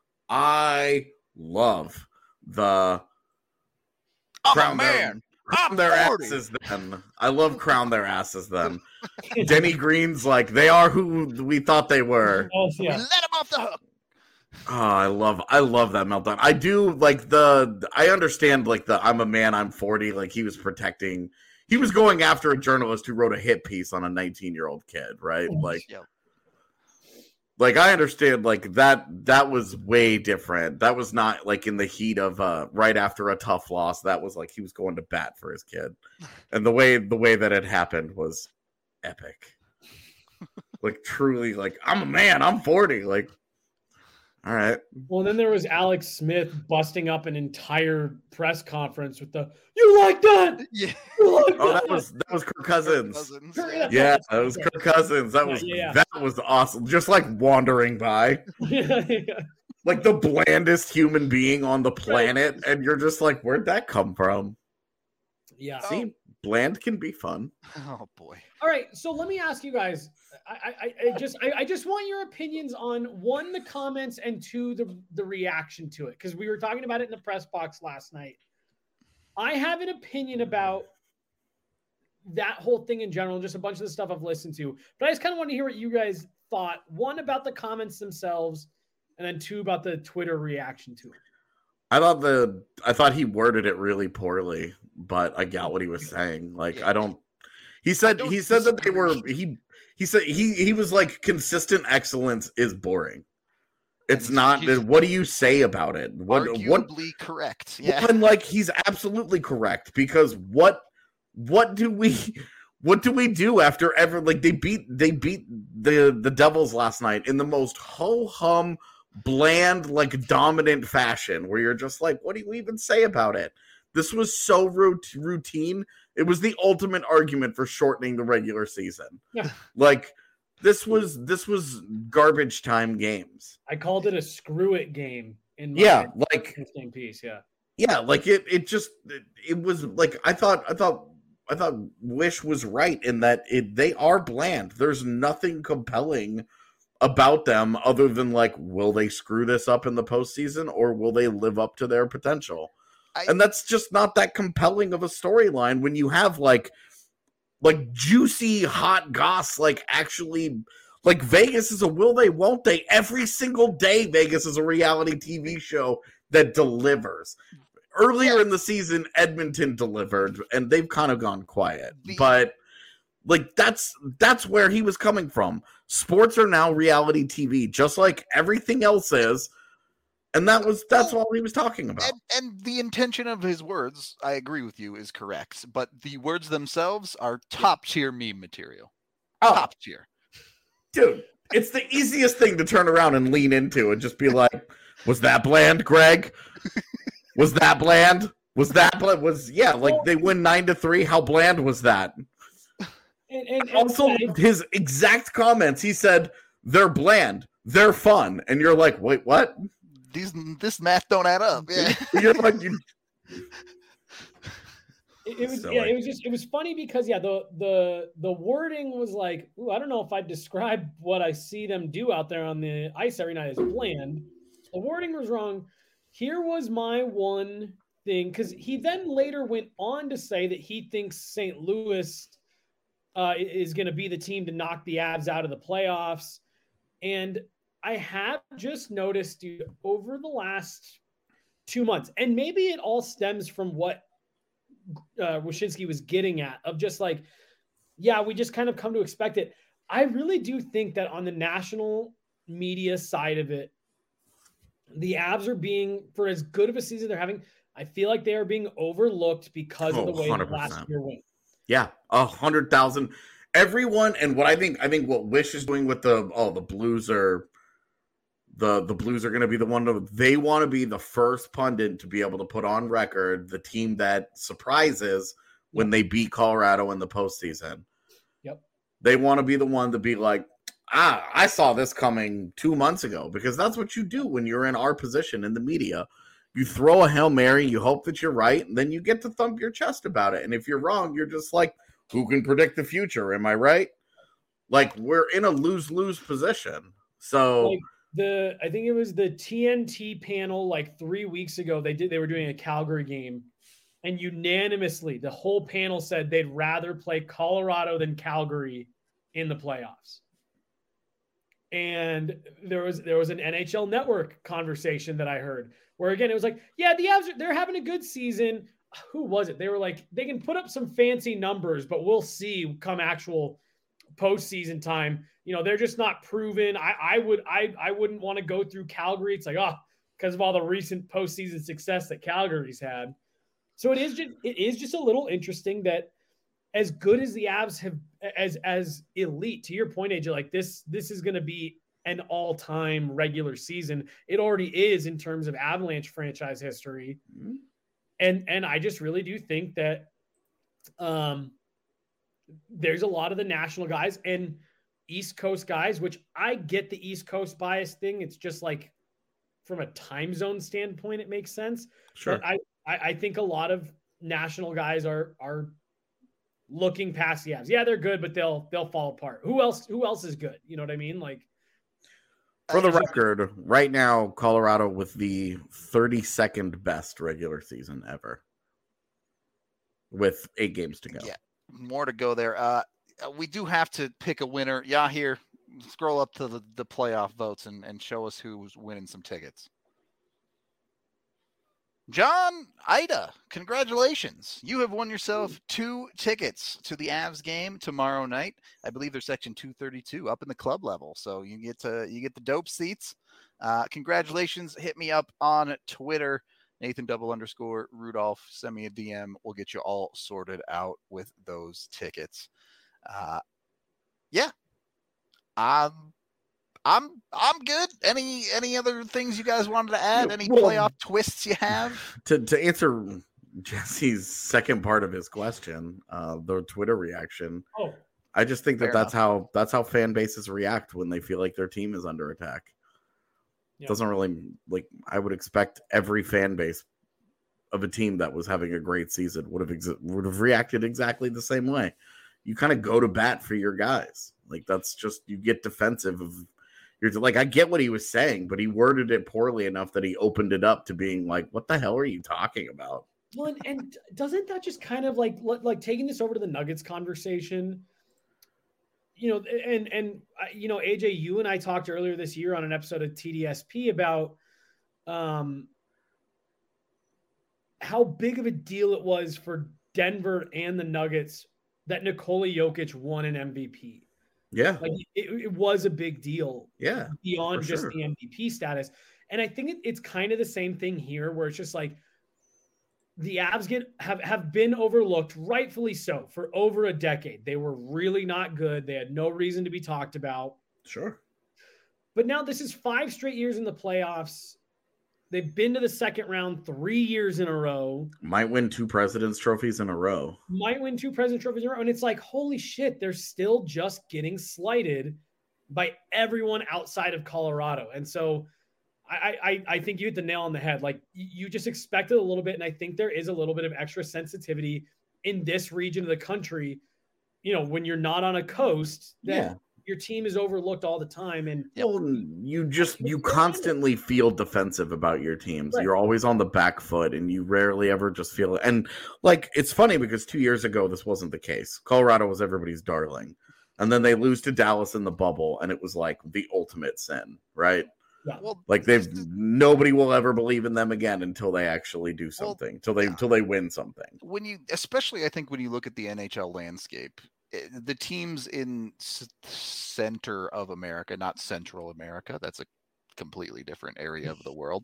the crown their asses then. I love crown their asses then. Denny Green's like, they are who we thought they were. We let him off the hook. Oh, I love that meltdown. I do like I understand like I'm a man, I'm 40. Like he was going after a journalist who wrote a hit piece on a 19-year-old kid, right? Like, like I understand like that was way different. That was not like in the heat of right after a tough loss. That was like he was going to bat for his kid. And the way that it happened was epic. Like truly, like I'm a man, I'm 40. Like, all right. Well, then there was Alex Smith busting up an entire press conference with "You like that? Yeah. That was Kirk Cousins. Yeah, that was Kirk Cousins. That was awesome. Just like wandering by, like the blandest human being on the planet, and you're just like, where'd that come from? Yeah. See, bland can be fun. Oh boy. All right, so let me ask you guys. I just want your opinions on 1, the comments, and 2, the reaction to it, because we were talking about it in the press box last night. I have an opinion about that whole thing in general, just a bunch of the stuff I've listened to, but I just kind of want to hear what you guys thought. 1 about the comments themselves, and then 2 about the Twitter reaction to it. I thought he worded it really poorly, but I got what he was saying. Like, he said that they were, he said he was like, consistent excellence is boring, It's not. What do you say about it? Arguably correct. Yeah. And like he's absolutely correct because what do we do after ever like they beat the Devils last night in the most ho-hum, bland, like dominant fashion where you're just like, what do you even say about it? This was so routine. It was the ultimate argument for shortening the regular season. Yeah. Like this was garbage time games. I called it a screw it game in my same piece. Yeah. Yeah, like it was like I thought Wish was right in that they are bland. There's nothing compelling about them other than like, will they screw this up in the postseason or will they live up to their potential? And that's just not that compelling of a storyline when you have like juicy hot goss, like actually like Vegas is a will they, won't they? Every single day Vegas is a reality TV show that delivers. Earlier in the season, Edmonton delivered, and they've kind of gone quiet. But like that's where he was coming from. Sports are now reality TV, just like everything else is. And that's all he was talking about. And the intention of his words, I agree with you, is correct. But the words themselves are top tier meme material. Top tier. Dude, it's the easiest thing to turn around and lean into and just be like, was that bland, Greg? Was that bland? They win 9-3. How bland was that? And also, his exact comments, he said, they're bland, they're fun. And you're like, wait, what? This math don't add up. Yeah. You're like, it was funny because the wording was like, I don't know if I'd describe what I see them do out there on the ice every night as bland. The wording was wrong. Here was my one thing, because he then later went on to say that he thinks St. Louis is going to be the team to knock the Avs out of the playoffs. And I have just noticed, dude, over the last 2 months, and maybe it all stems from what Wyshynski was getting at, of just like, yeah, we just kind of come to expect it. I really do think that on the national media side of it, the Avs are being, for as good of a season they're having, I feel like they are being overlooked because of the way the last year went. Yeah, 100,000. Everyone, and what I think what Wish is doing with the Blues are the Blues are going to be the one they want to be the first pundit to be able to put on record the team that surprises when they beat Colorado in the postseason. Yep, they want to be the one to be like, I saw this coming 2 months ago, because that's what you do when you're in our position in the media. You throw a Hail Mary, you hope that you're right, and then you get to thump your chest about it. And if you're wrong, you're just like, who can predict the future? Am I right? Like, we're in a lose-lose position. So like I think it was the TNT panel like 3 weeks ago, they were doing a Calgary game, and unanimously the whole panel said they'd rather play Colorado than Calgary in the playoffs. And there was an NHL Network conversation that I heard where, again, it was like, yeah, the Avs, they're having a good season. Who was it? They were like, they can put up some fancy numbers, but we'll see come actual postseason time. You know, they're just not proven. I wouldn't want to go through Calgary. It's like, because of all the recent postseason success that Calgary's had. So it is just a little interesting that as good as the Avs have, as elite, to your point, AJ, like this is going to be an all-time regular season. It already is in terms of Avalanche franchise history. Mm-hmm. And I just really do think that there's a lot of the national guys and East Coast guys, which I get the East Coast bias thing. It's just like from a time zone standpoint, it makes sense. Sure. But I think a lot of national guys are looking past the Avs. Yeah, they're good, but they'll fall apart. Who else is good? You know what I mean? Like, for the record, right now, Colorado with the 32nd best regular season ever, with 8 games to go. Yeah, more to go there. We do have to pick a winner. Yahir, scroll up to the playoff votes and show us who's winning some tickets. John Ida, congratulations. You have won yourself 2 tickets to the Avs game tomorrow night. I believe they're section 232 up in the club level. So you get the dope seats. Congratulations. Hit me up on Twitter, Nathan_Rudolph. Send me a DM. We'll get you all sorted out with those tickets. Yeah. I'm good. Any other things you guys wanted to add? Any playoff twists you have? To answer Jesse's second part of his question, the Twitter reaction. Oh, I just think that's how fan bases react when they feel like their team is under attack. Yeah. Doesn't really, like, I would expect every fan base of a team that was having a great season would have reacted exactly the same way. You kind of go to bat for your guys. Like, that's just, you get defensive of. You're like, I get what he was saying, but he worded it poorly enough that he opened it up to being like, what the hell are you talking about? Well, and doesn't that just kind of like taking this over to the Nuggets conversation, and AJ, you and I talked earlier this year on an episode of TDSP about how big of a deal it was for Denver and the Nuggets that Nikola Jokic won an MVP. Yeah. Like it was a big deal. Yeah. Beyond just the MVP status. And I think it's kind of the same thing here where it's just like the Avs have been overlooked, rightfully so, for over a decade. They were really not good. They had no reason to be talked about. Sure. But now this is 5 straight years in the playoffs. They've been to the second round 3 years in a row. Might win 2 President's Trophies in a row. And it's like, holy shit, they're still just getting slighted by everyone outside of Colorado. And so I think you hit the nail on the head. Like, you just expect it a little bit. And I think there is a little bit of extra sensitivity in this region of the country, when you're not on a coast that your team is overlooked all the time. And you constantly feel defensive about your teams. Right. You're always on the back foot and you rarely ever just feel it. And like, it's funny because 2 years ago, this wasn't the case. Colorado was everybody's darling. And then they lose to Dallas in the bubble. And it was like the ultimate sin, right? Yeah. Well, like nobody will ever believe in them again until they actually do something, until they win something. Especially I think when you look at the NHL landscape, the teams in center of America, not Central America, that's a completely different area of the world.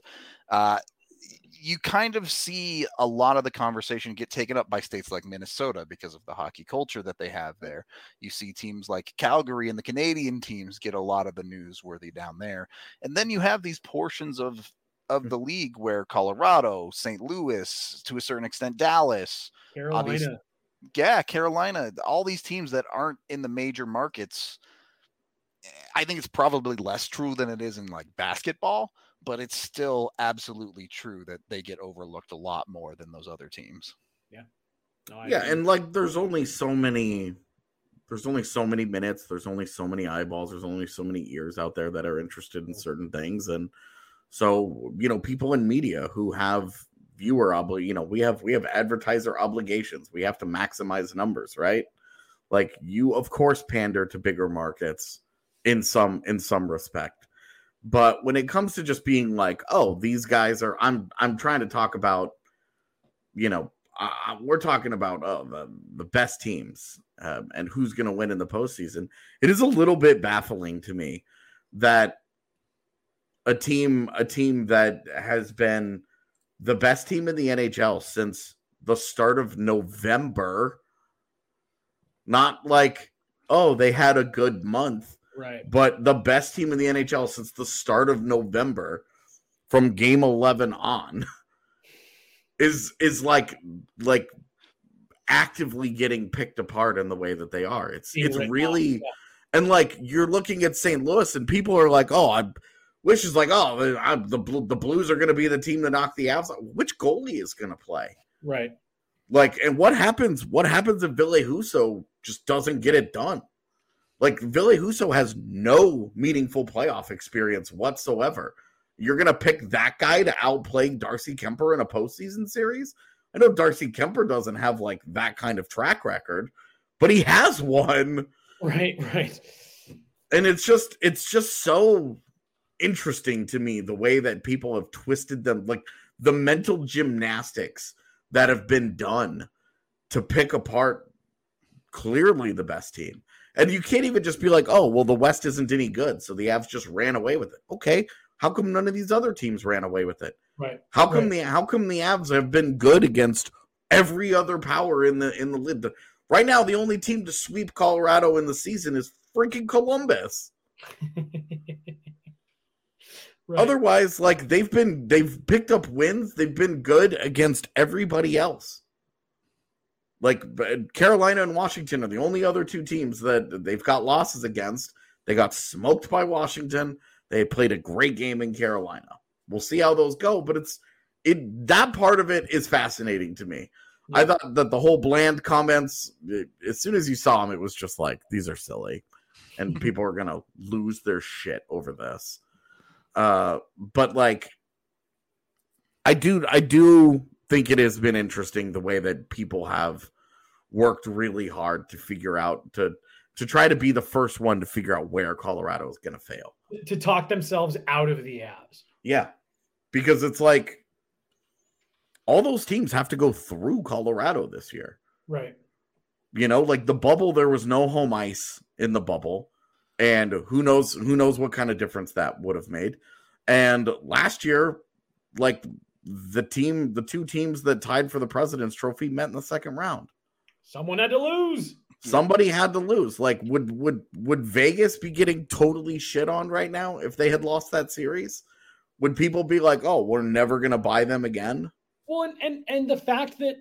You kind of see a lot of the conversation get taken up by states like Minnesota because of the hockey culture that they have there. You see teams like Calgary and the Canadian teams get a lot of the newsworthy down there. And then you have these portions of the league where Colorado, St. Louis, to a certain extent, Dallas, Carolina, all these teams that aren't in the major markets. I think it's probably less true than it is in like basketball, but it's still absolutely true that they get overlooked a lot more than those other teams. Yeah. And like there's only so many minutes, there's only so many eyeballs, there's only so many ears out there that are interested in certain things. And so, people in media who have viewer we have advertiser obligations. We have to maximize numbers, right? Like, you of course pander to bigger markets in some respect. But when it comes to just being like, oh, these guys are, I'm trying to talk about, we're talking about the best teams and who's going to win in the postseason. It is a little bit baffling to me that a team that has been the best team in the NHL since the start of November, not like, oh, they had a good month. Right. But the best team in the NHL since the start of November, from game 11 on, is like actively getting picked apart in the way that they are. It's really, and like you're looking at St. Louis and people are like, oh, the Blues are going to be the team to knock the Avs out. Which goalie is going to play? Right. Like, and what happens if Ville Husso just doesn't get it done? Like, Ville Husso has no meaningful playoff experience whatsoever. You're going to pick that guy to outplay Darcy Kemper in a postseason series? I know Darcy Kemper doesn't have, like, that kind of track record, but he has one. Right. And it's just so interesting to me, the way that people have twisted them, like, the mental gymnastics that have been done to pick apart clearly the best team. And you can't even just be like, oh, well, the West isn't any good, so the Avs just ran away with it. Okay, How come none of these other teams ran away with it? Right. How come the Avs have been good against every other power in the lid? Right now, the only team to sweep Colorado in the season is freaking Columbus. Right. Otherwise, like they've picked up wins. They've been good against everybody else. Like Carolina and Washington are the only other two teams that they've got losses against. They got smoked by Washington. They played a great game in Carolina. We'll see how those go, but that part of it is fascinating to me. Yeah. I thought that the whole Bland comments, as soon as you saw them, it was just like, these are silly, and people are going to lose their shit over this. But like, I do think it has been interesting the way that people have worked really hard to figure out to try to be the first one to figure out where Colorado is going to fail, to talk themselves out of the Avs. Yeah, because it's like all those teams have to go through Colorado this year, right? You know, like the bubble, there was no home ice in the bubble. And who knows what kind of difference that would have made. And last year, like the two teams that tied for the President's Trophy met in the second round. Someone had to lose. Somebody had to lose. Like, would Vegas be getting totally shit on right now if they had lost that series? Would people be like, "Oh, we're never going to buy them again"? Well, and the fact that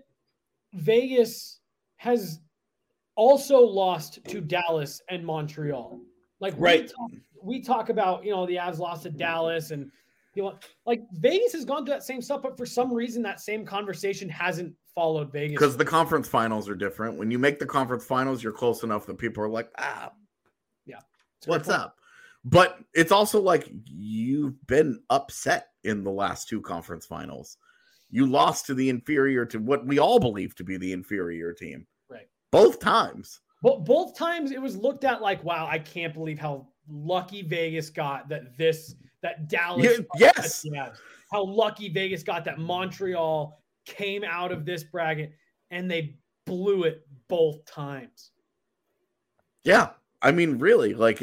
Vegas has also lost to Dallas and Montreal. Like right. We talk about, the Avs lost to Dallas and, like Vegas has gone through that same stuff, but for some reason that same conversation hasn't followed Vegas. Because the conference finals are different. When you make the conference finals, you're close enough that people are like, yeah, what's up? But it's also like you've been upset in the last two conference finals. You lost to the inferior, to what we all believe to be the inferior team. Right. Both times. But both times it was looked at like, wow, I can't believe how lucky Vegas got that Dallas. Yes. How lucky Vegas got that Montreal came out of this bracket and they blew it both times. Yeah. I mean, really, like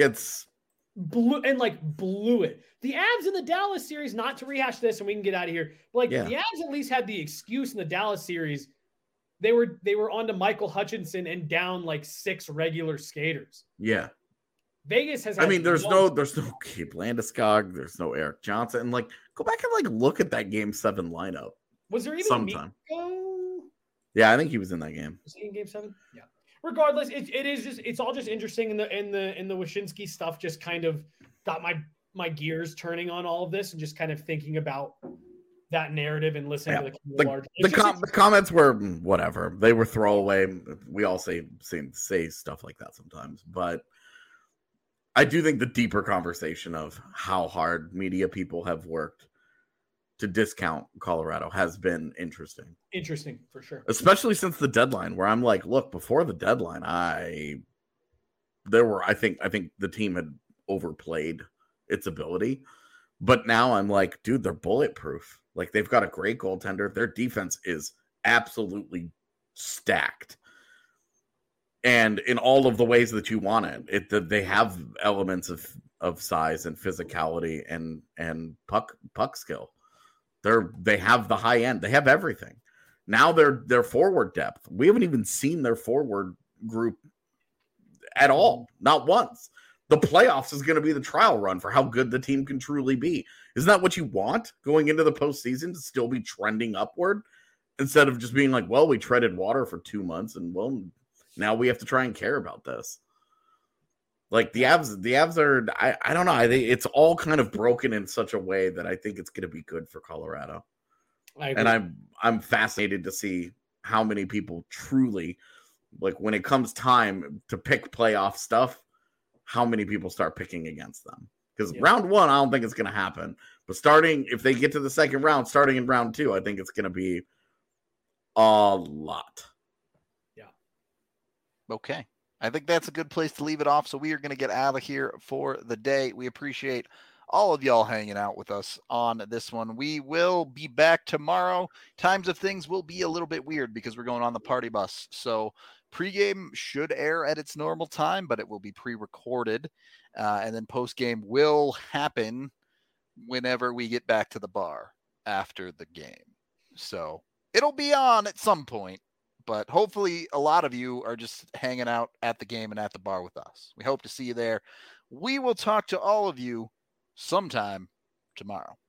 blew it. The Avs in the Dallas series, not to rehash this and we can get out of here, but the Avs at least had the excuse in the Dallas series. They were on to Michael Hutchinson and down like 6 regular skaters. Yeah. Vegas has. There's no Gabe Landeskog. There's no Eric Johnson. And like, go back and look at that Game 7 lineup. Was there even sometime? Mikko? Yeah, I think he was in that game. Was he in Game 7? Yeah. Regardless, it's all just interesting in the Wyshynski stuff. Just kind of got my gears turning on all of this and just kind of thinking about that narrative and listening to the large. The comments were whatever. They were throwaway. We all say stuff like that sometimes, but I do think the deeper conversation of how hard media people have worked to discount Colorado has been interesting. Interesting for sure, especially since the deadline. Where I'm like, look, before the deadline, I think the team had overplayed its ability, but now I'm like, dude, they're bulletproof. Like, they've got a great goaltender. Their defense is absolutely stacked. And in all of the ways that you want it, they have elements of size and physicality and puck skill. They have the high end. They have everything. Now their forward depth. We haven't even seen their forward group at all. Not once. The playoffs is going to be the trial run for how good the team can truly be. Isn't that what you want going into the postseason, to still be trending upward instead of just being like, well, we treaded water for 2 months and well, now we have to try and care about this. Like the Avs are, I don't know. I think it's all kind of broken in such a way that I think it's going to be good for Colorado. And I'm fascinated to see how many people truly, like when it comes time to pick playoff stuff, how many people start picking against them. Because round 1, I don't think it's going to happen. But if they get to the second round, starting in round 2, I think it's going to be a lot. Yeah. Okay. I think that's a good place to leave it off. So we are going to get out of here for the day. We appreciate all of y'all hanging out with us on this one. We will be back tomorrow. Times of things will be a little bit weird because we're going on the party bus. So pregame should air at its normal time, but it will be pre-recorded. And then postgame will happen whenever we get back to the bar after the game. So it'll be on at some point, but hopefully a lot of you are just hanging out at the game and at the bar with us. We hope to see you there. We will talk to all of you sometime tomorrow.